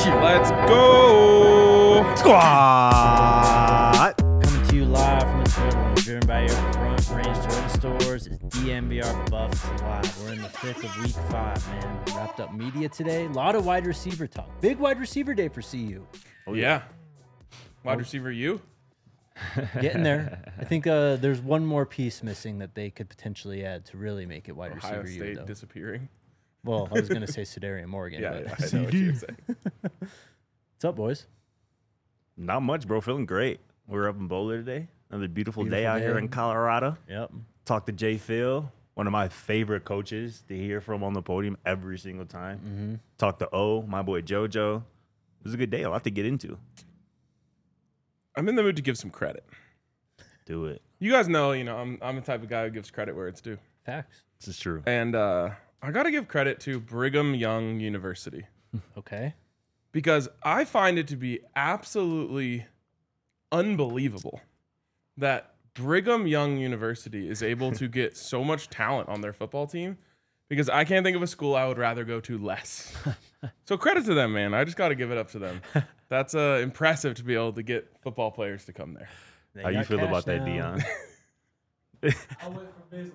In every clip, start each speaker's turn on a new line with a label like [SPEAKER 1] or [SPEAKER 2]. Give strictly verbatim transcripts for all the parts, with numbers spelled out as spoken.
[SPEAKER 1] Let's go.
[SPEAKER 2] Squad.
[SPEAKER 3] Coming to you live from the Toyota, driven by your front range Toyota stores. It's D M V R Buffs Live. We're in the fifth of week five, man. Wrapped up media today. A lot of wide receiver talk. Big wide receiver day for C U.
[SPEAKER 1] Oh, yeah. Wide receiver, you?
[SPEAKER 3] Getting there. I think uh, there's one more piece missing that they could potentially add to really make it wide
[SPEAKER 1] Ohio
[SPEAKER 3] receiver
[SPEAKER 1] State
[SPEAKER 3] U, though.
[SPEAKER 1] disappearing.
[SPEAKER 3] Well, I was going to say Sedarian Morgan.
[SPEAKER 1] Yeah,
[SPEAKER 3] but
[SPEAKER 1] yeah, I know what you're saying.
[SPEAKER 3] What's up, boys?
[SPEAKER 2] Not much, bro. Feeling great. We were up in Boulder today. Another beautiful,
[SPEAKER 3] Beautiful
[SPEAKER 2] day out
[SPEAKER 3] day.
[SPEAKER 2] here in Colorado.
[SPEAKER 3] Yep.
[SPEAKER 2] Talked to Jay Phil, one of my favorite coaches to hear from on the podium every single time.
[SPEAKER 3] Mm-hmm.
[SPEAKER 2] Talked to O, my boy JoJo. It was a good day. A lot to get into.
[SPEAKER 1] I'm in the mood to give some credit.
[SPEAKER 2] Do it.
[SPEAKER 1] You guys know, you know, I'm I'm the type of guy who gives credit where it's due.
[SPEAKER 3] Facts.
[SPEAKER 2] This is true.
[SPEAKER 1] And uh, I got to give credit to Brigham Young University
[SPEAKER 3] Okay.
[SPEAKER 1] because I find it to be absolutely unbelievable that Brigham Young University is able to get so much talent on their football team, because I can't think of a school I would rather go to less. So credit to them, man. I just got to give it up to them. That's uh, impressive to be able to get football players to come there.
[SPEAKER 3] They
[SPEAKER 2] How you
[SPEAKER 3] got
[SPEAKER 2] feel
[SPEAKER 3] cash
[SPEAKER 2] about that,
[SPEAKER 3] now.
[SPEAKER 2] Dion?
[SPEAKER 4] I went for business.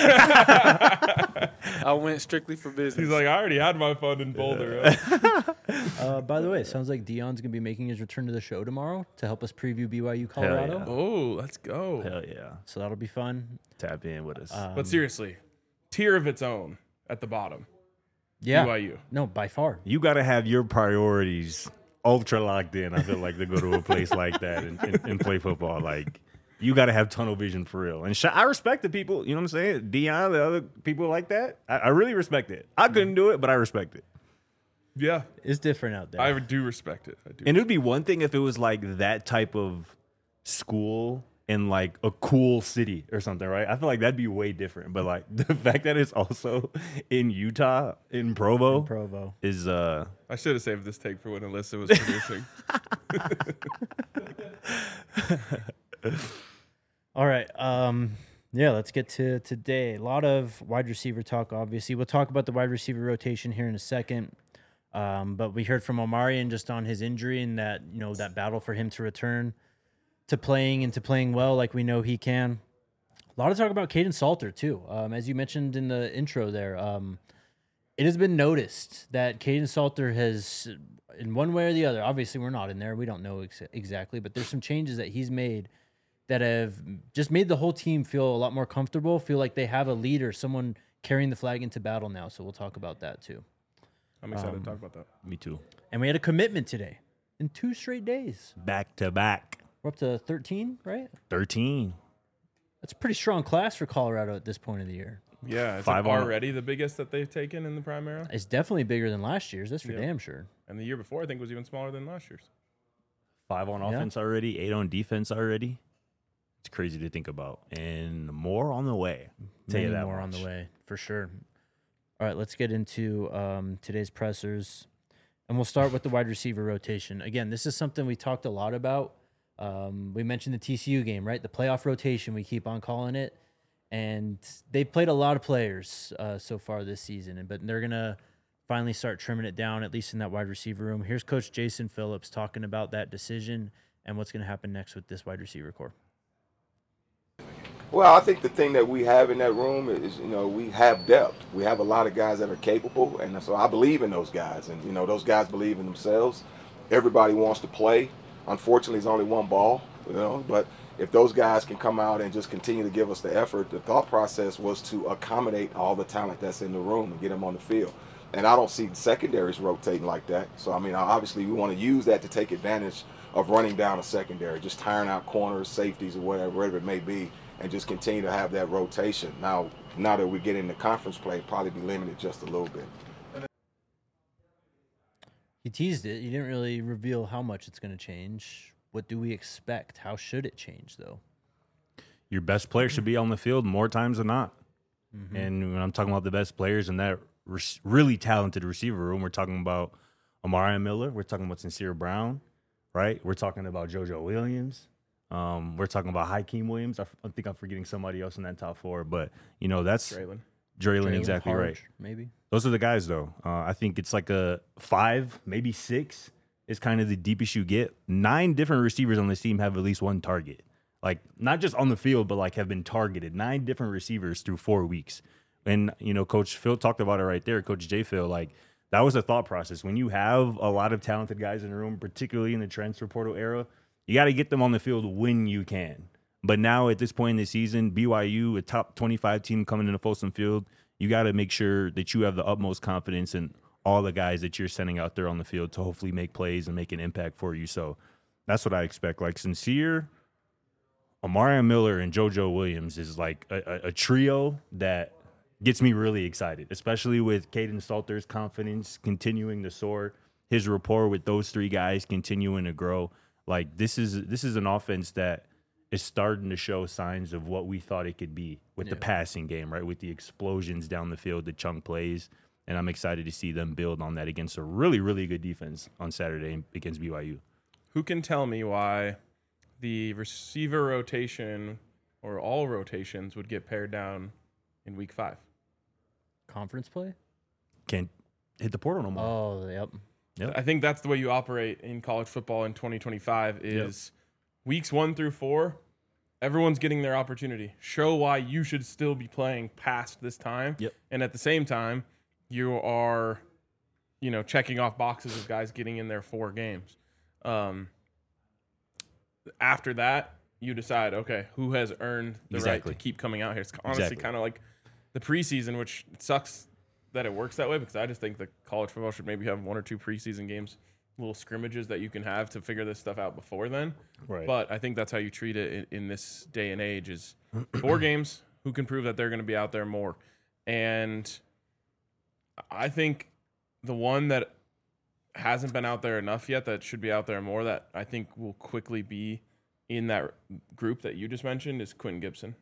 [SPEAKER 4] I went strictly for business.
[SPEAKER 1] He's like, I already had my fun in Boulder.
[SPEAKER 3] Uh, by the way, it sounds like Dion's going to be making his return to the show tomorrow to help us preview B Y U Colorado.
[SPEAKER 2] yeah.
[SPEAKER 1] Oh, let's go.
[SPEAKER 2] Hell yeah.
[SPEAKER 3] So that'll be fun.
[SPEAKER 2] Tap in with us.
[SPEAKER 3] Um,
[SPEAKER 1] But seriously, tier of its own at the bottom.
[SPEAKER 3] yeah.
[SPEAKER 1] B Y U.
[SPEAKER 3] No, by far.
[SPEAKER 2] you got to have your priorities ultra locked in, I feel like, to go to a place like that and, and, and play football. Like, you got to have tunnel vision for real. And sh- I respect the people, you know what I'm saying? Dion, the other people like that. I, I really respect it. I couldn't do it, but I respect it.
[SPEAKER 1] Yeah,
[SPEAKER 3] It's different out there.
[SPEAKER 1] I do respect it. I do.
[SPEAKER 2] And it would be one thing if it was like that type of school in like a cool city or something, right? I feel like that'd be way different. But like the fact that it's also in Utah, in Provo,
[SPEAKER 3] Provo.
[SPEAKER 2] is uh
[SPEAKER 1] I should have saved this take for when Alyssa was producing.
[SPEAKER 3] All right. Um, yeah, let's get to today. A lot of wide receiver talk, obviously. We'll talk about the wide receiver rotation here in a second. Um, but we heard from Omarion just on his injury and that, you know, that battle for him to return to playing and to playing well like we know he can. A lot of talk about Caden Salter, too. Um, as you mentioned in the intro there, um, it has been noticed that Caden Salter has, in one way or the other, obviously we're not in there, we don't know ex- exactly, but there's some changes that he's made that have just made the whole team feel a lot more comfortable, feel like they have a leader, someone carrying the flag into battle now. So we'll talk about that too.
[SPEAKER 1] I'm excited
[SPEAKER 3] Um,
[SPEAKER 1] to talk about that.
[SPEAKER 2] me too.
[SPEAKER 3] And we had a commitment today in two straight days.
[SPEAKER 2] Back to back.
[SPEAKER 3] We're up to thirteen, right?
[SPEAKER 2] thirteen.
[SPEAKER 3] That's a pretty strong class for Colorado at this point of the year.
[SPEAKER 1] Yeah, it's
[SPEAKER 2] Five
[SPEAKER 1] like
[SPEAKER 2] on-
[SPEAKER 1] already the biggest that they've taken in the prime era.
[SPEAKER 3] It's definitely bigger than last year's. That's for
[SPEAKER 1] Yeah.
[SPEAKER 3] damn sure.
[SPEAKER 1] And the year before, I think, was even smaller than last year's.
[SPEAKER 2] Five on
[SPEAKER 3] Yeah.
[SPEAKER 2] offense already, eight on defense already. It's crazy to think about. And more on the way. Tell you
[SPEAKER 3] Many
[SPEAKER 2] that
[SPEAKER 3] more on the
[SPEAKER 2] much.
[SPEAKER 3] way, for sure. All right, let's get into um, today's pressers. And we'll start with the wide receiver rotation. Again, this is something we talked a lot about. Um, we mentioned the T C U game, right? The playoff rotation, we keep on calling it. And they played a lot of players uh, so far this season, and but they're going to finally start trimming it down, at least in that wide receiver room. Here's Coach Jason Phillips talking about that decision and what's going to happen next with this wide receiver core.
[SPEAKER 5] Well, I think the thing that we have in that room is, you know, we have depth. We have a lot of guys that are capable, and so I believe in those guys. And, you know, those guys believe in themselves. Everybody wants to play. Unfortunately, it's only one ball, you know, but if those guys can come out and just continue to give us the effort, the thought process was to accommodate all the talent that's in the room and get them on the field. And I don't see secondaries rotating like that. So, I mean, obviously we want to use that to take advantage of running down a secondary, just tiring out corners, safeties, or whatever, whatever it may be, and just continue to have that rotation. Now, now that we get into conference play, probably be limited just a little bit.
[SPEAKER 3] You teased it. You didn't really reveal how much it's going to change. What do we expect? How should it change, though?
[SPEAKER 2] Your best player should be on the field more times than not.
[SPEAKER 3] Mm-hmm.
[SPEAKER 2] And when I'm talking about the best players in that re- really talented receiver room, we're talking about Amari Miller. We're talking about Sincere Brown, right? We're talking about JoJo Williams. Um, we're talking about Hakeem Williams. I, f- I think I'm forgetting somebody else in that top four, but you know that's
[SPEAKER 1] Draylon.
[SPEAKER 2] Draylon,
[SPEAKER 3] Jalen
[SPEAKER 2] exactly
[SPEAKER 3] Harge,
[SPEAKER 2] right.
[SPEAKER 3] Maybe.
[SPEAKER 2] Those are the guys, though. Uh, I think it's like a five, maybe six is kind of the deepest you get. Nine different receivers on this team have at least one target. Like, not just on the field, but like have been targeted. Nine different receivers through four weeks. And, you know, Coach Phil talked about it right there, Coach J. Phil. Like, that was a thought process. When you have a lot of talented guys in the room, particularly in the transfer portal era, you got to get them on the field when you can. But now at this point in the season, B Y U, a top twenty-five team coming into Folsom Field, you got to make sure that you have the utmost confidence in all the guys that you're sending out there on the field to hopefully make plays and make an impact for you. So that's what I expect. Like, Sincere, Omarion Miller, and JoJo Williams is like a, a, a trio that gets me really excited, especially with Caden Salter's confidence continuing to soar, his rapport with those three guys continuing to grow. Like, this is this is an offense that is starting to show signs of what we thought it could be with yeah. the passing game, right? With the explosions down the field, the chunk plays. And I'm excited to see them build on that against a really, really good defense on Saturday against B Y U.
[SPEAKER 1] Who can tell me why the receiver rotation or all rotations would get pared down in week five?
[SPEAKER 3] Conference play?
[SPEAKER 2] Can't hit the portal no more.
[SPEAKER 3] Oh, yep.
[SPEAKER 1] Yep. I think that's the way you operate in college football in twenty twenty-five is yep. weeks one through four, everyone's getting their opportunity. Show why you should still be playing past this time.
[SPEAKER 2] Yep.
[SPEAKER 1] And at the same time, you are, you know, checking off boxes of guys getting in their four games. Um, after that, you decide, okay, who has earned the
[SPEAKER 2] exactly.
[SPEAKER 1] right to keep coming out here? It's honestly
[SPEAKER 2] exactly.
[SPEAKER 1] kind of like the preseason, which sucks that it works that way because I just think that college football should maybe have one or two preseason games, little scrimmages that you can have to figure this stuff out before then.
[SPEAKER 2] Right.
[SPEAKER 1] But I think that's how you treat it in, in this day and age is four games, who can prove that they're going to be out there more. And I think the one that hasn't been out there enough yet that should be out there more that I think will quickly be in that group that you just mentioned is Quentin Gibson.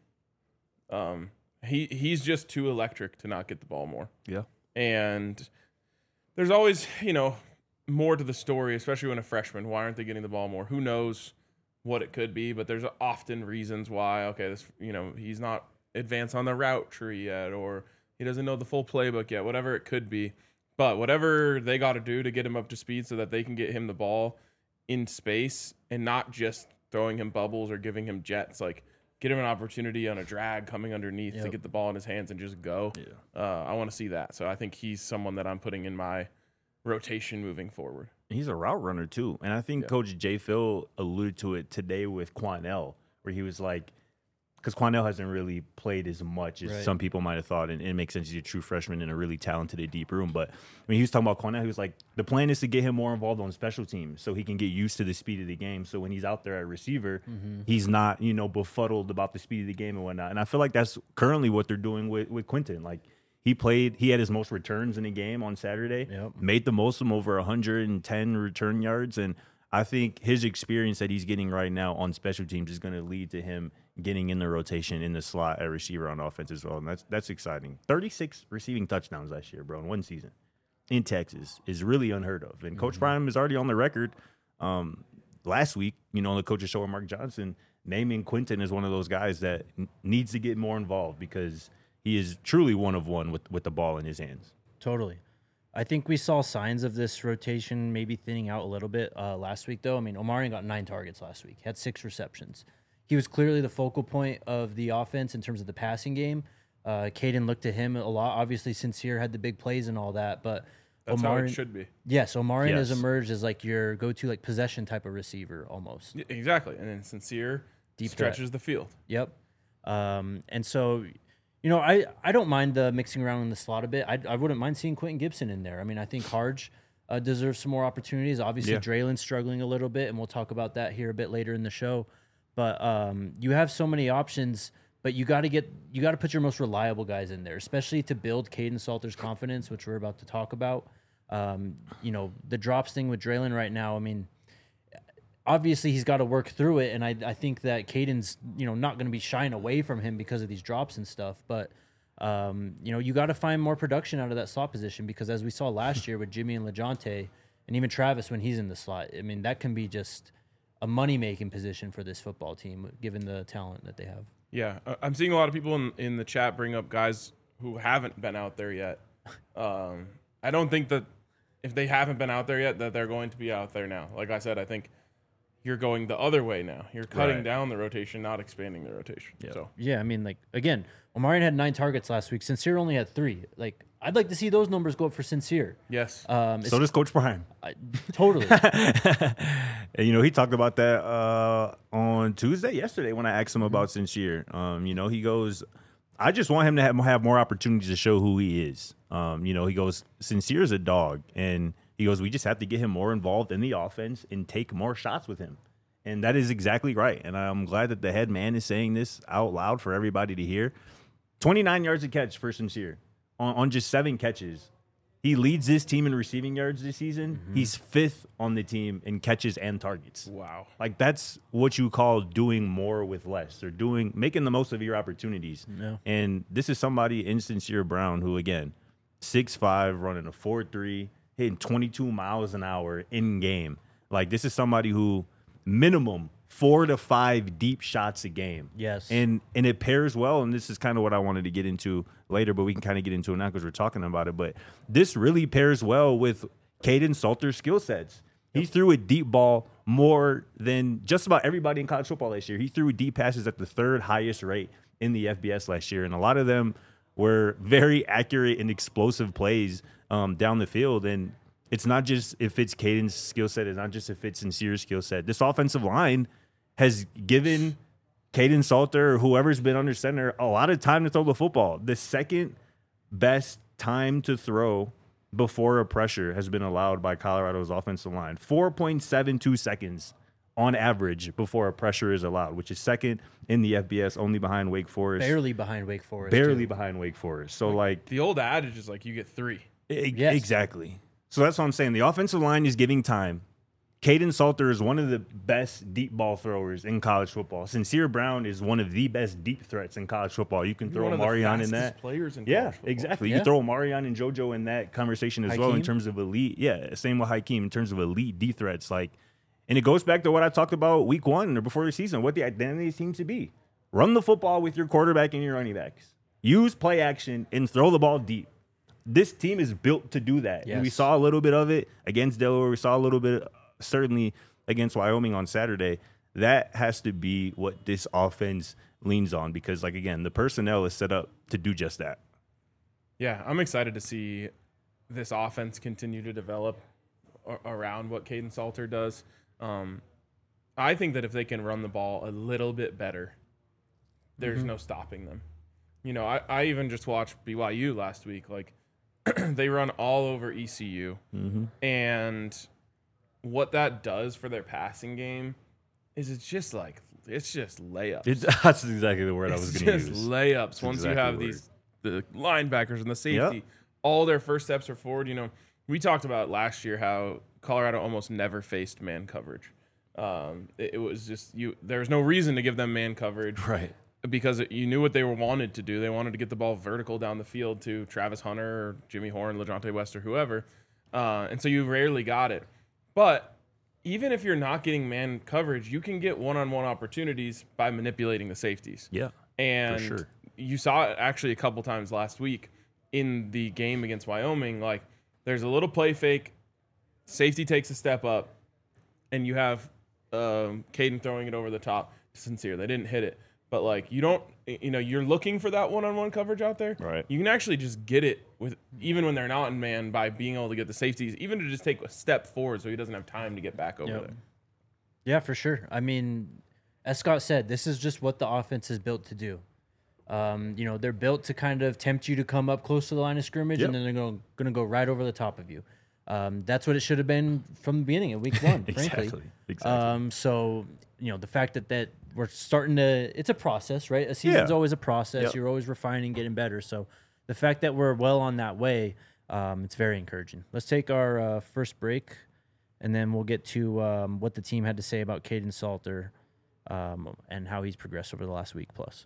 [SPEAKER 1] Um, he he's just too electric to not get the ball more.
[SPEAKER 2] Yeah.
[SPEAKER 1] And there's always, you know, more to the story, especially when a freshman. Why aren't they getting the ball more? Who knows what it could be, but there's often reasons why, okay, this, you know, he's not advanced on the route tree yet, or he doesn't know the full playbook yet, whatever it could be. But whatever they got to do to get him up to speed so that they can get him the ball in space and not just throwing him bubbles or giving him jets, like get him an opportunity on a drag coming underneath yep. to get the ball in his hands and just go.
[SPEAKER 2] Yeah.
[SPEAKER 1] Uh, I want to see that. So I think he's someone that I'm putting in my rotation moving forward.
[SPEAKER 2] He's a route runner too. And I think yeah. Coach J. Phil alluded to it today with Quanell, where he was like, because Quanell hasn't really played as much as right. some people might have thought, and it makes sense. He's a true freshman in a really talented deep room. But I mean, he was talking about Quanell. He was like, the plan is to get him more involved on special teams so he can get used to the speed of the game. So when he's out there at receiver, mm-hmm. he's not, you know, befuddled about the speed of the game and whatnot. And I feel like that's currently what they're doing with, with Quentin. Like, he played, he had his most returns in a game on Saturday,
[SPEAKER 3] yep.
[SPEAKER 2] made the most of them, over one hundred ten return yards. And I think his experience that he's getting right now on special teams is going to lead to him getting in the rotation in the slot at receiver on offense as well. And that's that's exciting. thirty-six receiving touchdowns last year, bro, in one season in Texas is really unheard of. And mm-hmm. Coach Prime is already on the record um, last week, you know, on the Coach's Show with Mark Johnson, naming Quentin as one of those guys that n- needs to get more involved because he is truly one of one with, with the ball in his hands.
[SPEAKER 3] Totally. I think we saw signs of this rotation maybe thinning out a little bit uh, last week, though. I mean, Omarion got nine targets last week, had six receptions. He was clearly the focal point of the offense in terms of the passing game. Uh, Caden looked to him a lot. Obviously, Sincere had the big plays and all that, but
[SPEAKER 1] that's
[SPEAKER 3] Omarion,
[SPEAKER 1] how it should be.
[SPEAKER 3] Yes, Omarion
[SPEAKER 2] yes.
[SPEAKER 3] has emerged as like your go-to like possession type of receiver almost.
[SPEAKER 1] Yeah, exactly, and then Sincere
[SPEAKER 3] Deep
[SPEAKER 1] stretches
[SPEAKER 3] threat.
[SPEAKER 1] the field.
[SPEAKER 3] Yep. Um, and so, you know, I, I don't mind the mixing around in the slot a bit. I I wouldn't mind seeing Quentin Gibson in there. I mean, I think Harge uh, deserves some more opportunities. Obviously,
[SPEAKER 2] yeah.
[SPEAKER 3] Draylen's struggling a little bit, and we'll talk about that here a bit later in the show. But um, you have so many options, but you got to get you got to put your most reliable guys in there, especially to build Caden Salter's confidence, which we're about to talk about. Um, you know, the drops thing with Draylen right now. I mean, obviously he's got to work through it, and I I think that Caden's you know not going to be shying away from him because of these drops and stuff. But um, you know, you got to find more production out of that slot position because as we saw last year with Jimmy and LeJontay, and even Travis when he's in the slot, I mean that can be just a money-making position for this football team, given the talent that they have.
[SPEAKER 1] Yeah, I'm seeing a lot of people in, in the chat bring up guys who haven't been out there yet Um, I don't think that if they haven't been out there yet, that they're going to be out there now. Like I said, I think you're going the other way now. You're cutting
[SPEAKER 2] Right.
[SPEAKER 1] down the rotation, not expanding the rotation.
[SPEAKER 2] Yep.
[SPEAKER 1] So
[SPEAKER 3] Yeah, I mean, like again, Omarion had nine targets last week. Sincere only had three. Like, I'd like to see those numbers go up for Sincere.
[SPEAKER 1] yes,
[SPEAKER 3] Um,
[SPEAKER 2] So does Coach Prime.
[SPEAKER 3] I, totally.
[SPEAKER 2] And, you know, he talked about that uh, on Tuesday, yesterday, when I asked him about Sincere. Um, you know, he goes, I just want him to have, have more opportunities to show who he is. Um, you know, he goes, Sincere is a dog. And he goes, we just have to get him more involved in the offense and take more shots with him. And that is exactly right. And I'm glad that the head man is saying this out loud for everybody to hear. twenty-nine yards a catch for Sincere on, on just seven catches. He leads this team in receiving yards this season.
[SPEAKER 3] Mm-hmm.
[SPEAKER 2] He's fifth on the team in catches and targets.
[SPEAKER 1] wow.
[SPEAKER 2] Like, that's what you call doing more with less. Or doing making the most of your opportunities.
[SPEAKER 3] Yeah.
[SPEAKER 2] And this is somebody in Sincere Brown who, again, six five, running a four three, hitting twenty-two miles an hour in game. Like, this is somebody who minimum four to five deep shots a game.
[SPEAKER 3] Yes.
[SPEAKER 2] And and it pairs well, and this is kind of what I wanted to get into later, but we can kind of get into it now because we're talking about it. But this really pairs well with Caden Salter's skill sets. He threw a deep ball more than just about everybody in college football last year. He threw deep passes at the third highest rate in the F B S last year, and a lot of them were very accurate and explosive plays um, down the field. And it's not just if it's Caden's skill set, it's not just if it's Sincere's skill set. This offensive line has given Caden Salter or whoever's been under center a lot of time to throw the football. The second best time to throw before a pressure has been allowed by Colorado's offensive line. four point seven two seconds on average before a pressure is allowed, which is second in the F B S, only behind Wake Forest.
[SPEAKER 3] Barely behind Wake Forest.
[SPEAKER 2] Barely
[SPEAKER 3] too.
[SPEAKER 2] behind Wake Forest. So, like,
[SPEAKER 1] The old adage is like you get three.
[SPEAKER 2] e-
[SPEAKER 3] Yes.
[SPEAKER 2] exactly. So that's what I'm saying. The offensive line is giving time. Caden Salter is one of the best deep ball throwers in college football. Sincere Brown is one of the best deep threats in college football. You can
[SPEAKER 1] You're
[SPEAKER 2] throw
[SPEAKER 1] one of the
[SPEAKER 2] Marion in
[SPEAKER 1] fastest
[SPEAKER 2] that.
[SPEAKER 1] players in
[SPEAKER 2] Yeah,
[SPEAKER 1] college football.
[SPEAKER 2] exactly.
[SPEAKER 3] Yeah.
[SPEAKER 2] You throw Marion and JoJo in that conversation as well in
[SPEAKER 3] Hakeem.
[SPEAKER 2] terms of elite. Yeah, same with Hakeem in terms of elite deep threats. Like, and it goes back to what I talked about week one or before the season, what the identity seems to be. Run the football with your quarterback and your running backs. Use play action and throw the ball deep. This team is built to do that. And we
[SPEAKER 3] Yes.
[SPEAKER 2] saw a little bit of it against Delaware. We saw a little bit, certainly, against Wyoming on Saturday. That has to be what this offense leans on because, like, again, the personnel is set up to do just that.
[SPEAKER 1] Yeah, I'm excited to see this offense continue to develop a- around what Caden Salter does. Um, I think that if they can run the ball a little bit better, there's no stopping them. You know, I, I even just watched B Y U last week. Like, they run all over E C U.
[SPEAKER 2] Mm-hmm.
[SPEAKER 1] And what that does for their passing game is it's just like, it's just layups.
[SPEAKER 2] It, that's exactly the word I was
[SPEAKER 1] It's
[SPEAKER 2] going to
[SPEAKER 1] just
[SPEAKER 2] use.
[SPEAKER 1] layups.
[SPEAKER 2] That's
[SPEAKER 1] Once
[SPEAKER 2] exactly
[SPEAKER 1] you have
[SPEAKER 2] the word.
[SPEAKER 1] these the linebackers and the safety, all their first steps are forward. You know, we talked about last year how Colorado almost never faced man coverage. Um, it, it was just you. There was no reason to give them man coverage,
[SPEAKER 2] Right.
[SPEAKER 1] Because it, you knew what they were wanted to do. They wanted to get the ball vertical down the field to Travis Hunter or Jimmy Horn, LaJohntay West, or whoever, uh, and so you rarely got it. But even if you're not getting man coverage, you can get one-on-one opportunities by manipulating the safeties.
[SPEAKER 2] Yeah.
[SPEAKER 1] And
[SPEAKER 2] sure.
[SPEAKER 1] you saw it actually a couple times last week in the game against Wyoming. Like, there's a little play fake, safety takes a step up, and you have um, Caden throwing it over the top to Sincere. They didn't hit it. But, like, you don't, you know, you're looking for that one-on-one coverage out there.
[SPEAKER 2] Right.
[SPEAKER 1] You can actually just get it with, even when they're not in man, by being able to get the safeties, even to just take a step forward so he doesn't have time to get back over
[SPEAKER 3] Yep.
[SPEAKER 1] there.
[SPEAKER 3] Yeah, for sure. I mean, as Scott said, this is just what the offense is built to do. Um, you know, they're built to kind of tempt you to come up close to the line of scrimmage,
[SPEAKER 2] Yep.
[SPEAKER 3] and then they're going to go right over the top of you. Um, that's what it should have been from the beginning of week one, frankly.
[SPEAKER 2] Exactly. Exactly.
[SPEAKER 3] Um, so, you know, the fact that, that we're starting to, it's a process, right? A season's
[SPEAKER 2] Yeah.
[SPEAKER 3] always a process.
[SPEAKER 2] Yep.
[SPEAKER 3] You're always refining, getting better. So the fact that we're well on that way, um, it's very encouraging. Let's take our uh, first break, and then we'll get to um, what the team had to say about Caden Salter um, and how he's progressed over the last week plus.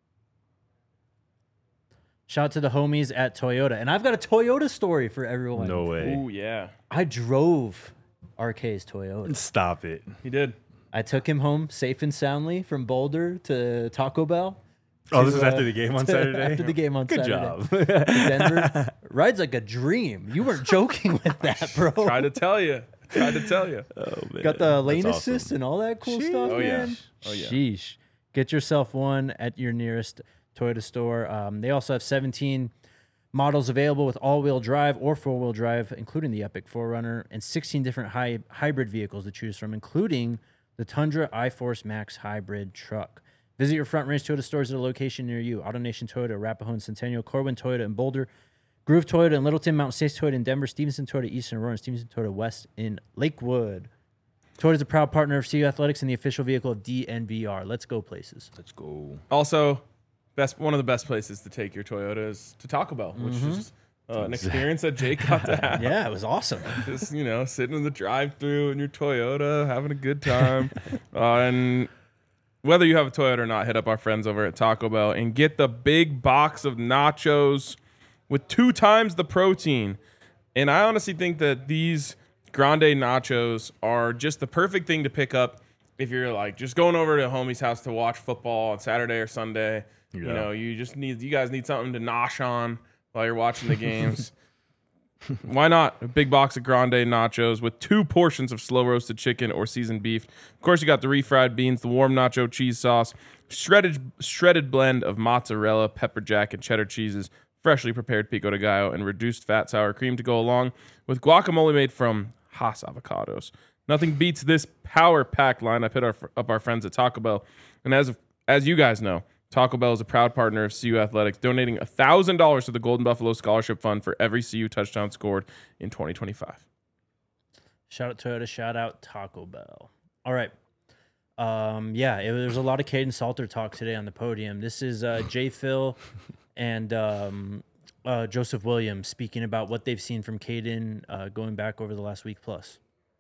[SPEAKER 3] Shout out to the homies at Toyota. And I've got a Toyota story for everyone.
[SPEAKER 2] no way.
[SPEAKER 1] Ooh, yeah.
[SPEAKER 3] I drove R K's Toyota.
[SPEAKER 2] Stop it.
[SPEAKER 1] He did.
[SPEAKER 3] I took him home safe and soundly from Boulder to Taco Bell.
[SPEAKER 2] Oh, this
[SPEAKER 3] to,
[SPEAKER 2] is
[SPEAKER 3] uh,
[SPEAKER 2] after the game on
[SPEAKER 3] to-
[SPEAKER 2] Saturday?
[SPEAKER 3] After the game on
[SPEAKER 2] Good
[SPEAKER 3] Saturday.
[SPEAKER 2] job.
[SPEAKER 3] To Denver. ride's like a dream. You weren't joking with that, bro.
[SPEAKER 1] Try to tell you. Try to tell you.
[SPEAKER 2] Oh, man.
[SPEAKER 3] Got the lane
[SPEAKER 2] That's
[SPEAKER 3] assist
[SPEAKER 2] awesome.
[SPEAKER 3] and all that cool
[SPEAKER 2] Sheesh.
[SPEAKER 3] stuff,
[SPEAKER 1] Oh, yeah.
[SPEAKER 3] man.
[SPEAKER 1] Oh, yeah.
[SPEAKER 3] Sheesh. Get yourself one at your nearest Toyota store. Um, they also have seventeen models available with all-wheel drive or four-wheel drive, including the Epic four runner, and sixteen different hy- hybrid vehicles to choose from, including the Tundra iForce Max hybrid truck. Visit your Front Range Toyota stores at a location near you. AutoNation Toyota, Arapahoe and Centennial, Corwin Toyota in Boulder, Groove Toyota in Littleton, Mountain States Toyota in Denver, Stevenson Toyota East in Aurora, and Stevenson Toyota West in Lakewood. Toyota is a proud partner of C U Athletics and the official vehicle of D N V R. Let's go places.
[SPEAKER 2] Let's go.
[SPEAKER 1] Also, best one of the best places to take your Toyota is to Taco Bell, which
[SPEAKER 3] Mm-hmm.
[SPEAKER 1] is uh, an experience that Jake got to have.
[SPEAKER 3] Yeah, it was awesome.
[SPEAKER 1] Just, you know, sitting in the drive-thru in your Toyota, having a good time. uh, and whether you have a Toyota or not, hit up our friends over at Taco Bell and get the big box of nachos with two times the protein. And I honestly think that these Grande nachos are just the perfect thing to pick up if you're like just going over to a homie's house to watch football on Saturday or Sunday. You
[SPEAKER 2] Yeah.
[SPEAKER 1] know, you just need, you guys need something to nosh on while you're watching the games. Why not? A big box of Grande nachos with two portions of slow roasted chicken or seasoned beef. Of course, you got the refried beans, the warm nacho cheese sauce, shredded shredded blend of mozzarella, pepper jack, and cheddar cheeses, freshly prepared pico de gallo, and reduced fat sour cream to go along with guacamole made from Hass avocados. Nothing beats this power-packed lineup. Hit our, up our friends at Taco Bell. And as as you guys know, Taco Bell is a proud partner of C U Athletics, donating one thousand dollars to the Golden Buffalo Scholarship Fund for every C U touchdown scored in twenty twenty-five.
[SPEAKER 3] Shout out Toyota, shout out Taco Bell. All right. Um, yeah, it, there's a lot of Caden Salter talk today on the podium. This is uh, Jay Phil and um, uh, Joseph Williams speaking about what they've seen from Caden uh, going back over the last week plus.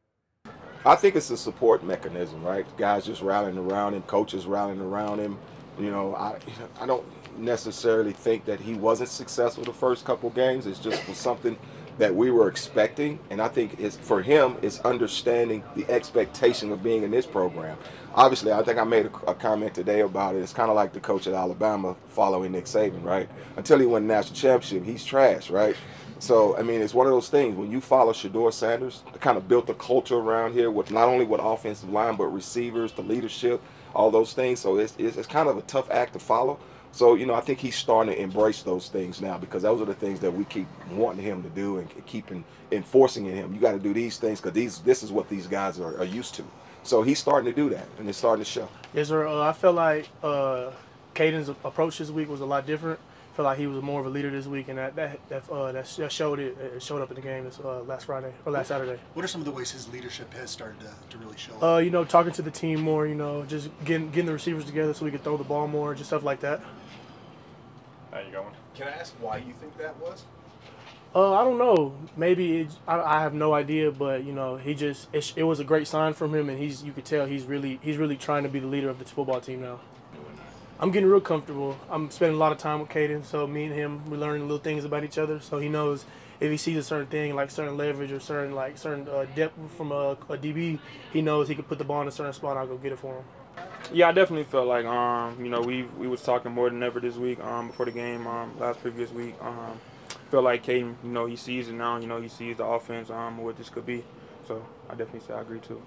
[SPEAKER 5] I think it's a support mechanism, right? Guys just rallying around him, coaches rallying around him. You know, I I don't necessarily think that he wasn't successful the first couple games. It's just was something that we were expecting, and I think it's for him it's understanding the expectation of being in this program. Obviously, I think I made a, a comment today about it. It's kind of like the coach at Alabama following Nick Saban, right? Until he won the national championship, he's trash, right? So, I mean, it's one of those things. When you follow Shedeur Sanders, they kind of built a culture around here with not only with offensive line, but receivers, the leadership, all those things. So it's, it's, it's kind of a tough act to follow. So, you know, I think he's starting to embrace those things now because those are the things that we keep wanting him to do and keep enforcing in him. You got to do these things because these this is what these guys are, are used to. So he's starting to do that, and it's starting to show.
[SPEAKER 4] Yes, sir. Uh, I felt like uh, Caden's approach this week was a lot different. I felt like he was more of a leader this week, and that that that, uh, that showed it. It showed up in the game this uh, last Friday or last Saturday.
[SPEAKER 6] What are some of the ways his leadership has started to, to really show up?
[SPEAKER 4] Uh, you know, talking to the team more. You know, just getting getting the receivers together so we could throw the ball more, just stuff like that.
[SPEAKER 7] How you going? Can I ask why you think that was?
[SPEAKER 4] Uh, I don't know. Maybe it, I, I have no idea, but you know, he just it, it was a great sign from him, and he's you could tell he's really he's really trying to be the leader of this football team now. I'm getting real comfortable. I'm spending a lot of time with Caden, so me and him we're learning little things about each other. So he knows if he sees a certain thing like certain leverage or certain like certain uh, depth from a, a D B, he knows he can put the ball in a certain spot. And I'll go get it for him.
[SPEAKER 8] Yeah, I definitely felt like um, you know, we we was talking more than ever this week, um, before the game, um, last previous week. Um, feel like Caden, you know, he sees it now, you know, he sees the offense, um, what this could be. So I definitely say I agree too.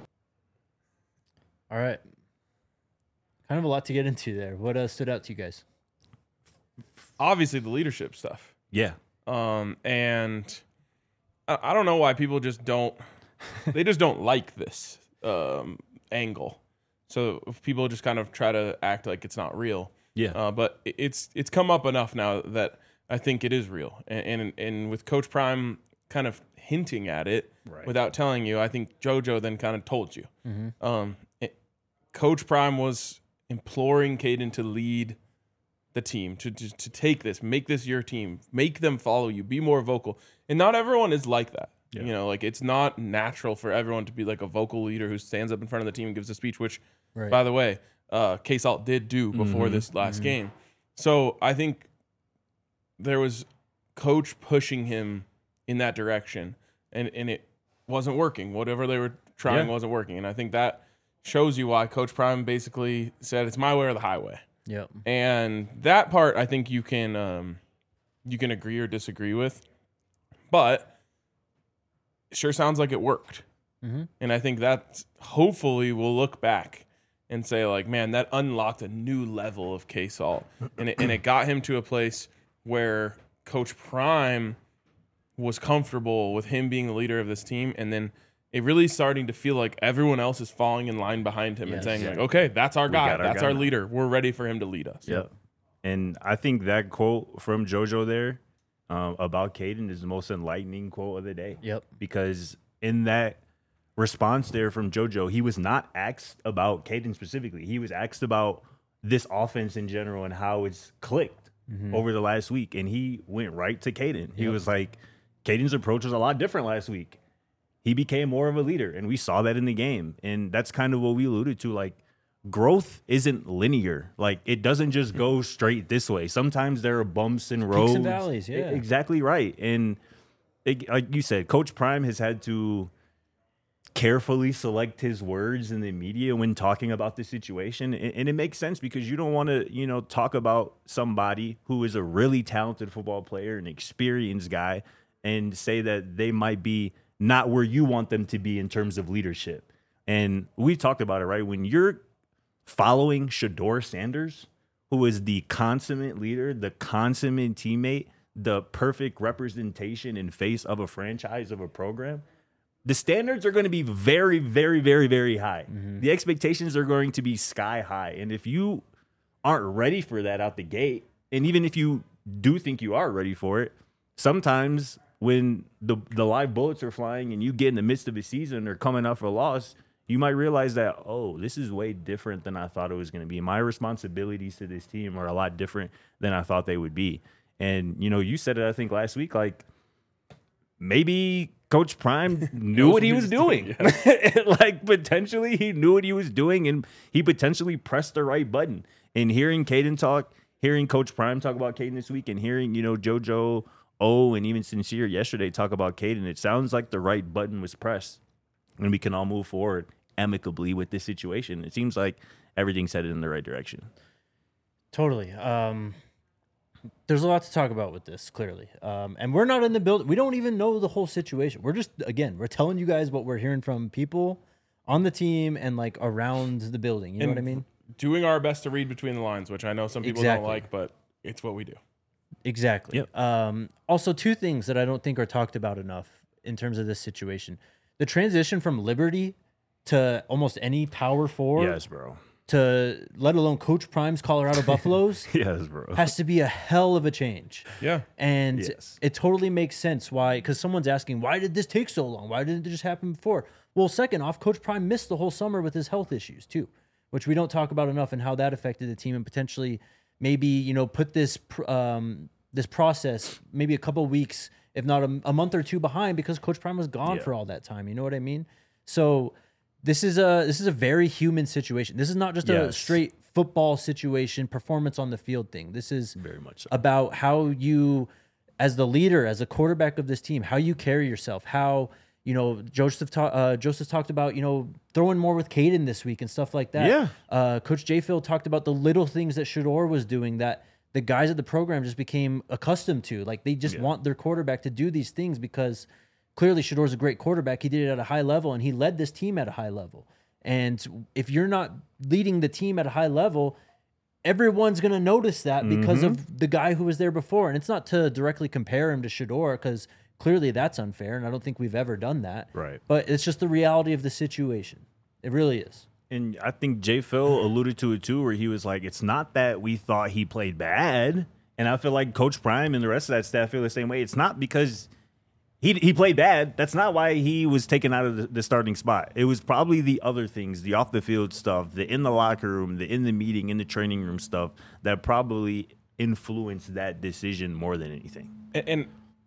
[SPEAKER 3] All right. Kind of a lot to get into there. What uh, stood out to you guys?
[SPEAKER 1] Obviously, the leadership stuff.
[SPEAKER 2] Yeah.
[SPEAKER 1] Um, and I, I don't know why people just don't. They just don't like this um, angle. So if people just kind of try to act like it's not real.
[SPEAKER 2] Yeah.
[SPEAKER 1] Uh, but it- it's it's come up enough now that I think it is real. And and, and with Coach Prime kind of hinting at it
[SPEAKER 2] Right.
[SPEAKER 1] without telling you, I think JoJo then kind of told you.
[SPEAKER 3] Mm-hmm.
[SPEAKER 1] Um, it, Coach Prime was imploring Caden to lead the team, to, to to take this, make this your team, make them follow you, be more vocal. And not everyone is like that.
[SPEAKER 2] Yeah.
[SPEAKER 1] You know, like it's not natural for everyone to be like a vocal leader who stands up in front of the team and gives a speech, which,
[SPEAKER 3] Right.
[SPEAKER 1] by the way, uh, K-Salt did do before
[SPEAKER 2] Mhm.
[SPEAKER 1] this last
[SPEAKER 3] Mhm.
[SPEAKER 1] game. So I think there was Coach pushing him in that direction, and, and it wasn't working. Whatever they were trying
[SPEAKER 2] Yeah.
[SPEAKER 1] wasn't working. And I think that shows you why Coach Prime basically said it's my way or the highway.
[SPEAKER 3] Yep.
[SPEAKER 1] And that part I think you can um, you can agree or disagree with. but it sure sounds like it worked.
[SPEAKER 3] Mm-hmm.
[SPEAKER 1] And I think that hopefully we'll look back and say, like, man, that unlocked a new level of K-Salt. And it, and it got him to a place where Coach Prime was comfortable with him being the leader of this team. And then it really starting to feel like everyone else is falling in line behind him
[SPEAKER 3] Yes.
[SPEAKER 1] and saying,
[SPEAKER 2] Yeah.
[SPEAKER 1] like, okay, that's our
[SPEAKER 2] We
[SPEAKER 1] guy.
[SPEAKER 2] got our
[SPEAKER 1] That's
[SPEAKER 2] guy
[SPEAKER 1] our
[SPEAKER 2] now."
[SPEAKER 1] leader. We're ready for him to lead us.
[SPEAKER 2] Yep. And I think that quote from JoJo there um, about Caden is the most enlightening quote of the day.
[SPEAKER 3] Yep.
[SPEAKER 2] Because in that response there from JoJo, he was not asked about Caden specifically. He was asked about this offense in general and how it's clicked
[SPEAKER 3] Mm-hmm.
[SPEAKER 2] over the last week. And he went right to Caden. He
[SPEAKER 3] Yep.
[SPEAKER 2] was like, Caden's approach was a lot different last week. He became more of a leader, and we saw that in the game. And that's kind of what we alluded to. Like, growth isn't linear. Like, it doesn't just go straight this way. Sometimes there are bumps and roads.
[SPEAKER 3] Peaks and valleys, yeah.
[SPEAKER 2] E- Exactly right. And it, like you said, Coach Prime has had to carefully select his words in the media when talking about the situation. And, and it makes sense because you don't want to, you know, talk about somebody who is a really talented football player, an experienced guy, and say that they might be not where you want them to be in terms of leadership. And we talked about it, right? When you're following Shedeur Sanders, who is the consummate leader, the consummate teammate, the perfect representation and face of a franchise, of a program, the standards are going to be very, very, very, very high.
[SPEAKER 3] Mm-hmm.
[SPEAKER 2] The expectations are going to be sky high. And if you aren't ready for that out the gate, and even if you do think you are ready for it, sometimes when the the live bullets are flying and you get in the midst of a season or coming off a loss, you might realize that, oh, this is way different than I thought it was going to be. My responsibilities to this team are a lot different than I thought they would be. And, you know, you said it, I think, last week, like, maybe Coach Prime knew what he was doing. Like, potentially he knew what he was doing, and he potentially pressed the right button. And hearing Caden talk, hearing Coach Prime talk about Caden this week, and hearing, you know, JoJo, O, and even Sincere yesterday talk about Caden, it sounds like the right button was pressed, and we can all move forward amicably with this situation. It seems like everything's headed in the right direction.
[SPEAKER 3] Totally. Um, there's a lot to talk about with this, clearly. Um, and we're not in the building. We don't even know the whole situation. We're just, again, we're telling you guys what we're hearing from people on the team and, like, around the building. You know
[SPEAKER 1] And
[SPEAKER 3] what I mean?
[SPEAKER 1] Doing our best to read between the lines, which I know some people
[SPEAKER 3] Exactly.
[SPEAKER 1] don't like, but it's what we do.
[SPEAKER 3] Exactly.
[SPEAKER 2] Yep.
[SPEAKER 3] Um, also, two things that I don't think are talked about enough in terms of this situation. The transition from Liberty to almost any power forward
[SPEAKER 2] Yes, bro.
[SPEAKER 3] to let alone Coach Prime's Colorado Buffaloes
[SPEAKER 2] Yes, bro.
[SPEAKER 3] has to be a hell of a change.
[SPEAKER 1] Yeah.
[SPEAKER 3] And
[SPEAKER 2] Yes.
[SPEAKER 3] it totally makes sense why, because someone's asking, why did this take so long? Why didn't it just happen before? Well, second off, Coach Prime missed the whole summer with his health issues too, which we don't talk about enough, and how that affected the team and potentially maybe, you know, put this pr- um, this process maybe a couple weeks, if not a, a month or two behind, because Coach Prime was gone
[SPEAKER 2] Yeah.
[SPEAKER 3] for all that time. You know what I mean? So this is a this is a very human situation. This is not just a
[SPEAKER 2] Yes.
[SPEAKER 3] straight football situation, performance on the field thing. This is
[SPEAKER 2] Very much so.
[SPEAKER 3] about how you, as the leader, as a quarterback of this team, how you carry yourself, how, you know, Joseph ta- uh, Joseph talked about, you know, throwing more with Caden this week and stuff like that.
[SPEAKER 2] Yeah.
[SPEAKER 3] Uh, Coach J. Phil talked about the little things that Shedeur was doing that the guys at the program just became accustomed to. Like, they just
[SPEAKER 2] Yeah.
[SPEAKER 3] want their quarterback to do these things because clearly Shedeur's a great quarterback. He did it at a high level, and he led this team at a high level. And if you're not leading the team at a high level, everyone's going to notice that because
[SPEAKER 2] Mm-hmm.
[SPEAKER 3] of the guy who was there before. And it's not to directly compare him to Shedeur, because clearly that's unfair, and I don't think we've ever done that.
[SPEAKER 2] Right.
[SPEAKER 3] But it's just the reality of the situation. It really is.
[SPEAKER 2] And I think Jay Phil alluded to it too, where he was like, it's not that we thought he played bad. And I feel like Coach Prime and the rest of that staff feel the same way. It's not because he he played bad. That's not why he was taken out of the, the starting spot. It was probably the other things, the off the field stuff, the in the locker room, the in the meeting, in the training room stuff that probably influenced that decision more than anything.
[SPEAKER 1] And, and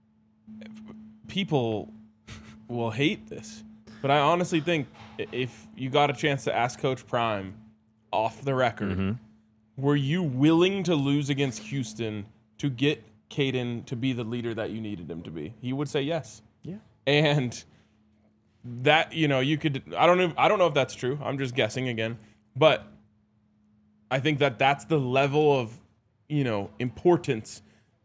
[SPEAKER 1] people will hate this, but I honestly think i- if you got a chance to ask Coach Prime off the record, were you willing to lose against Houston to get Caden to be the leader that you needed him to be? He would say yes.
[SPEAKER 2] Yeah.
[SPEAKER 1] And that, you know, you could, I don't know, I don't know if that's true. I'm just guessing again, but I think that that's the level of, you know, importance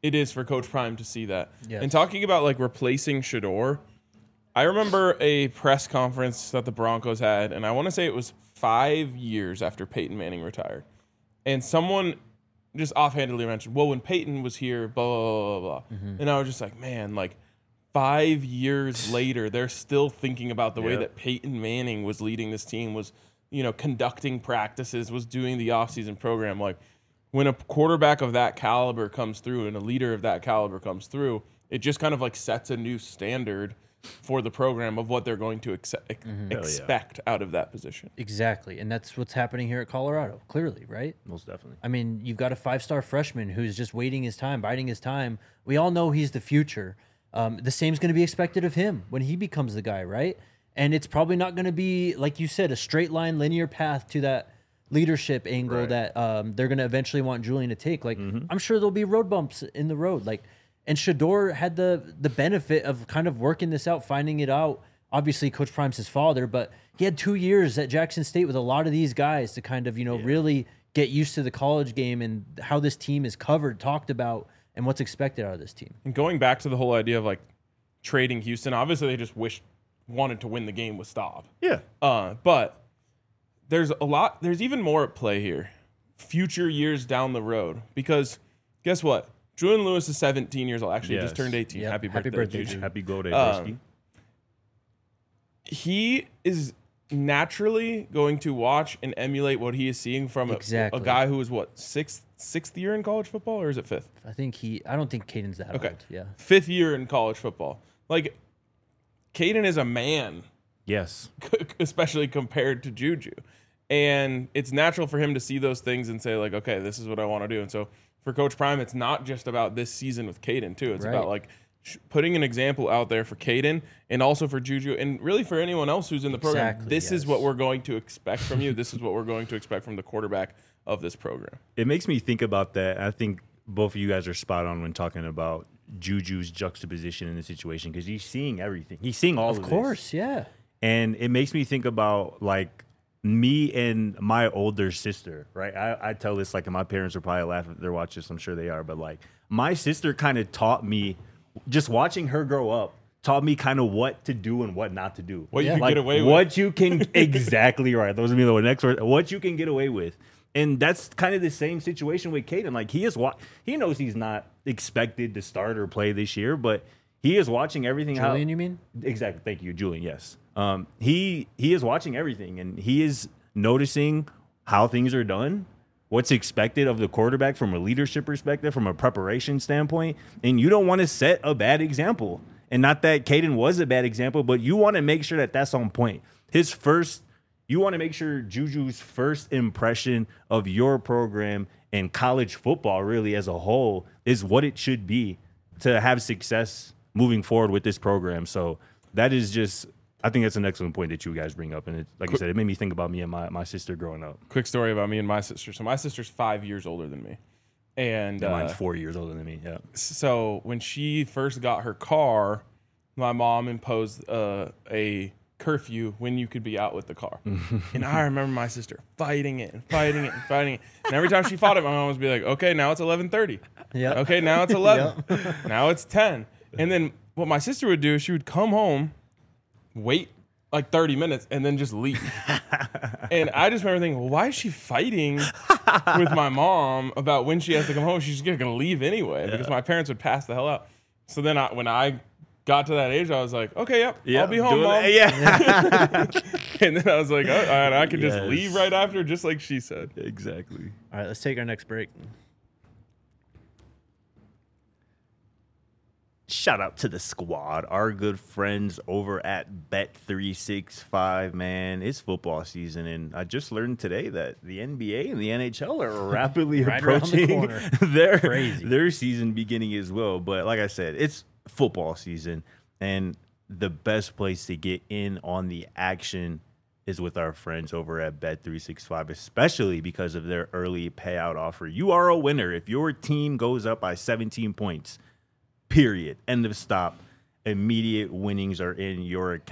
[SPEAKER 1] it is for Coach Prime to see that.
[SPEAKER 3] Yes.
[SPEAKER 1] And talking about like replacing Shedeur, I remember a press conference that the Broncos had, and I want to say it was five years after Peyton Manning retired. And someone just offhandedly mentioned, well, when Peyton was here, blah, blah, blah, blah. Mm-hmm. And I was just like, man, like five years later, they're still thinking about the yep. way that Peyton Manning was leading this team, was, you know, conducting practices, was doing the offseason program. Like, when a quarterback of that caliber comes through and a leader of that caliber comes through, it just kind of like sets a new standard for the program of what they're going to ex- mm-hmm. expect yeah. out of that position.
[SPEAKER 3] Exactly. And that's what's happening here at Colorado, clearly, right?
[SPEAKER 2] Most definitely.
[SPEAKER 3] I mean, you've got a five-star freshman who's just waiting his time, biding his time. We all know he's the future. Um, the same's going to be expected of him when he becomes the guy, right? And it's probably not going to be, like you said, a straight line, linear path to that leadership angle right. that um, they're going to eventually want Julian to take. Like, mm-hmm. I'm sure there'll be road bumps in the road. Like, and Shedeur had the the benefit of kind of working this out, finding it out. Obviously, Coach Prime's his father, but he had two years at Jackson State with a lot of these guys to kind of, you know, yeah. really get used to the college game and how this team is covered, talked about, and what's expected out of this team.
[SPEAKER 1] And going back to the whole idea of, like, trading Houston, obviously they just wished, wanted to win the game with Staub.
[SPEAKER 2] Yeah.
[SPEAKER 1] Uh, but there's a lot, there's even more at play here, future years down the road, because guess what? Julian Lewis is seventeen years old. Actually, yes. he just turned eighteen.
[SPEAKER 3] Yep.
[SPEAKER 1] Happy birthday,
[SPEAKER 3] Happy birthday,
[SPEAKER 1] Juju.
[SPEAKER 2] Happy go day,
[SPEAKER 1] um, He is naturally going to watch and emulate what he is seeing from a,
[SPEAKER 3] exactly.
[SPEAKER 1] a guy who is, what, sixth sixth year in college football, or is it fifth?
[SPEAKER 3] I think he, I don't think Caden's that
[SPEAKER 1] okay.
[SPEAKER 3] old. Yeah.
[SPEAKER 1] Fifth year in college football. Like, Caden is a man.
[SPEAKER 2] Yes.
[SPEAKER 1] Especially compared to Juju. And it's natural for him to see those things and say, like, okay, this is what I want to do. And so for Coach Prime, it's not just about this season with Caden, too. It's right. about, like, sh- putting an example out there for Caden and also for Juju and really for anyone else who's in the program.
[SPEAKER 3] Exactly,
[SPEAKER 1] this
[SPEAKER 3] yes.
[SPEAKER 1] is what we're going to expect from you. This is what we're going to expect from the quarterback of this program.
[SPEAKER 2] It makes me think about that. I think both of you guys are spot on when talking about Juju's juxtaposition in the situation, because he's seeing everything. He's seeing all of,
[SPEAKER 3] of
[SPEAKER 2] this.
[SPEAKER 3] course, yeah.
[SPEAKER 2] And it makes me think about, like, me and my older sister, right? I, I tell this, like, and my parents are probably laughing if they're watching this. I'm sure they are. But, like, my sister kind of taught me, just watching her grow up, taught me kind of what to do and what not to do.
[SPEAKER 1] What
[SPEAKER 2] yeah.
[SPEAKER 1] you can
[SPEAKER 2] like,
[SPEAKER 1] get away with.
[SPEAKER 2] What you can, exactly right. Those are me the next word. What you can get away with. And that's kind of the same situation with Caden. Like, he is wa- he knows he's not expected to start or play this year, but he is watching everything.
[SPEAKER 3] Julian,
[SPEAKER 2] how,
[SPEAKER 3] you mean?
[SPEAKER 2] Exactly. Thank you, Julian. Yes. Um, he he is watching everything, and he is noticing how things are done, what's expected of the quarterback from a leadership perspective, from a preparation standpoint. And you don't want to set a bad example. And not that Caden was a bad example, but you want to make sure that that's on point. His first, you want to make sure Juju's first impression of your program and college football really as a whole is what it should be to have success moving forward with this program. So that is just, I think that's an excellent point that you guys bring up. And it, like I said, it made me think about me and my, my sister growing up.
[SPEAKER 1] Quick story about me and my sister. So my sister's five years older than me. And
[SPEAKER 2] yeah, mine's
[SPEAKER 1] uh,
[SPEAKER 2] four years older than me. Yeah.
[SPEAKER 1] So when she first got her car, my mom imposed uh, a curfew when you could be out with the car. And I remember my sister fighting it and fighting it and fighting it. And every time she fought it, my mom would be like, okay, now it's eleven thirty.
[SPEAKER 3] Yeah.
[SPEAKER 1] Okay, now it's eleven. Yep. Now it's ten. And then what my sister would do is she would come home, wait like thirty minutes, and then just leave. And I just remember thinking, well, why is she fighting with my mom about when she has to come home? She's just going to leave anyway, yeah. because my parents would pass the hell out. So then I, when I got to that age, I was like, okay, yep, yep I'll be home, Mom.
[SPEAKER 2] Yeah.
[SPEAKER 1] And then I was like, oh, all right, I could
[SPEAKER 2] yes.
[SPEAKER 1] just leave right after, just like she said.
[SPEAKER 2] Exactly.
[SPEAKER 3] All right, let's take our next break.
[SPEAKER 2] Shout out to the squad, our good friends over at Bet three sixty-five, man. It's football season, and I just learned today that the N B A and the N H L are rapidly
[SPEAKER 3] right
[SPEAKER 2] approaching
[SPEAKER 3] the
[SPEAKER 2] their,
[SPEAKER 3] Crazy.
[SPEAKER 2] their season beginning as well. But like I said, it's football season, and the best place to get in on the action is with our friends over at Bet three sixty-five, especially because of their early payout offer. You are a winner if your team goes up by seventeen points. Period. End of stop. Immediate winnings are in your account.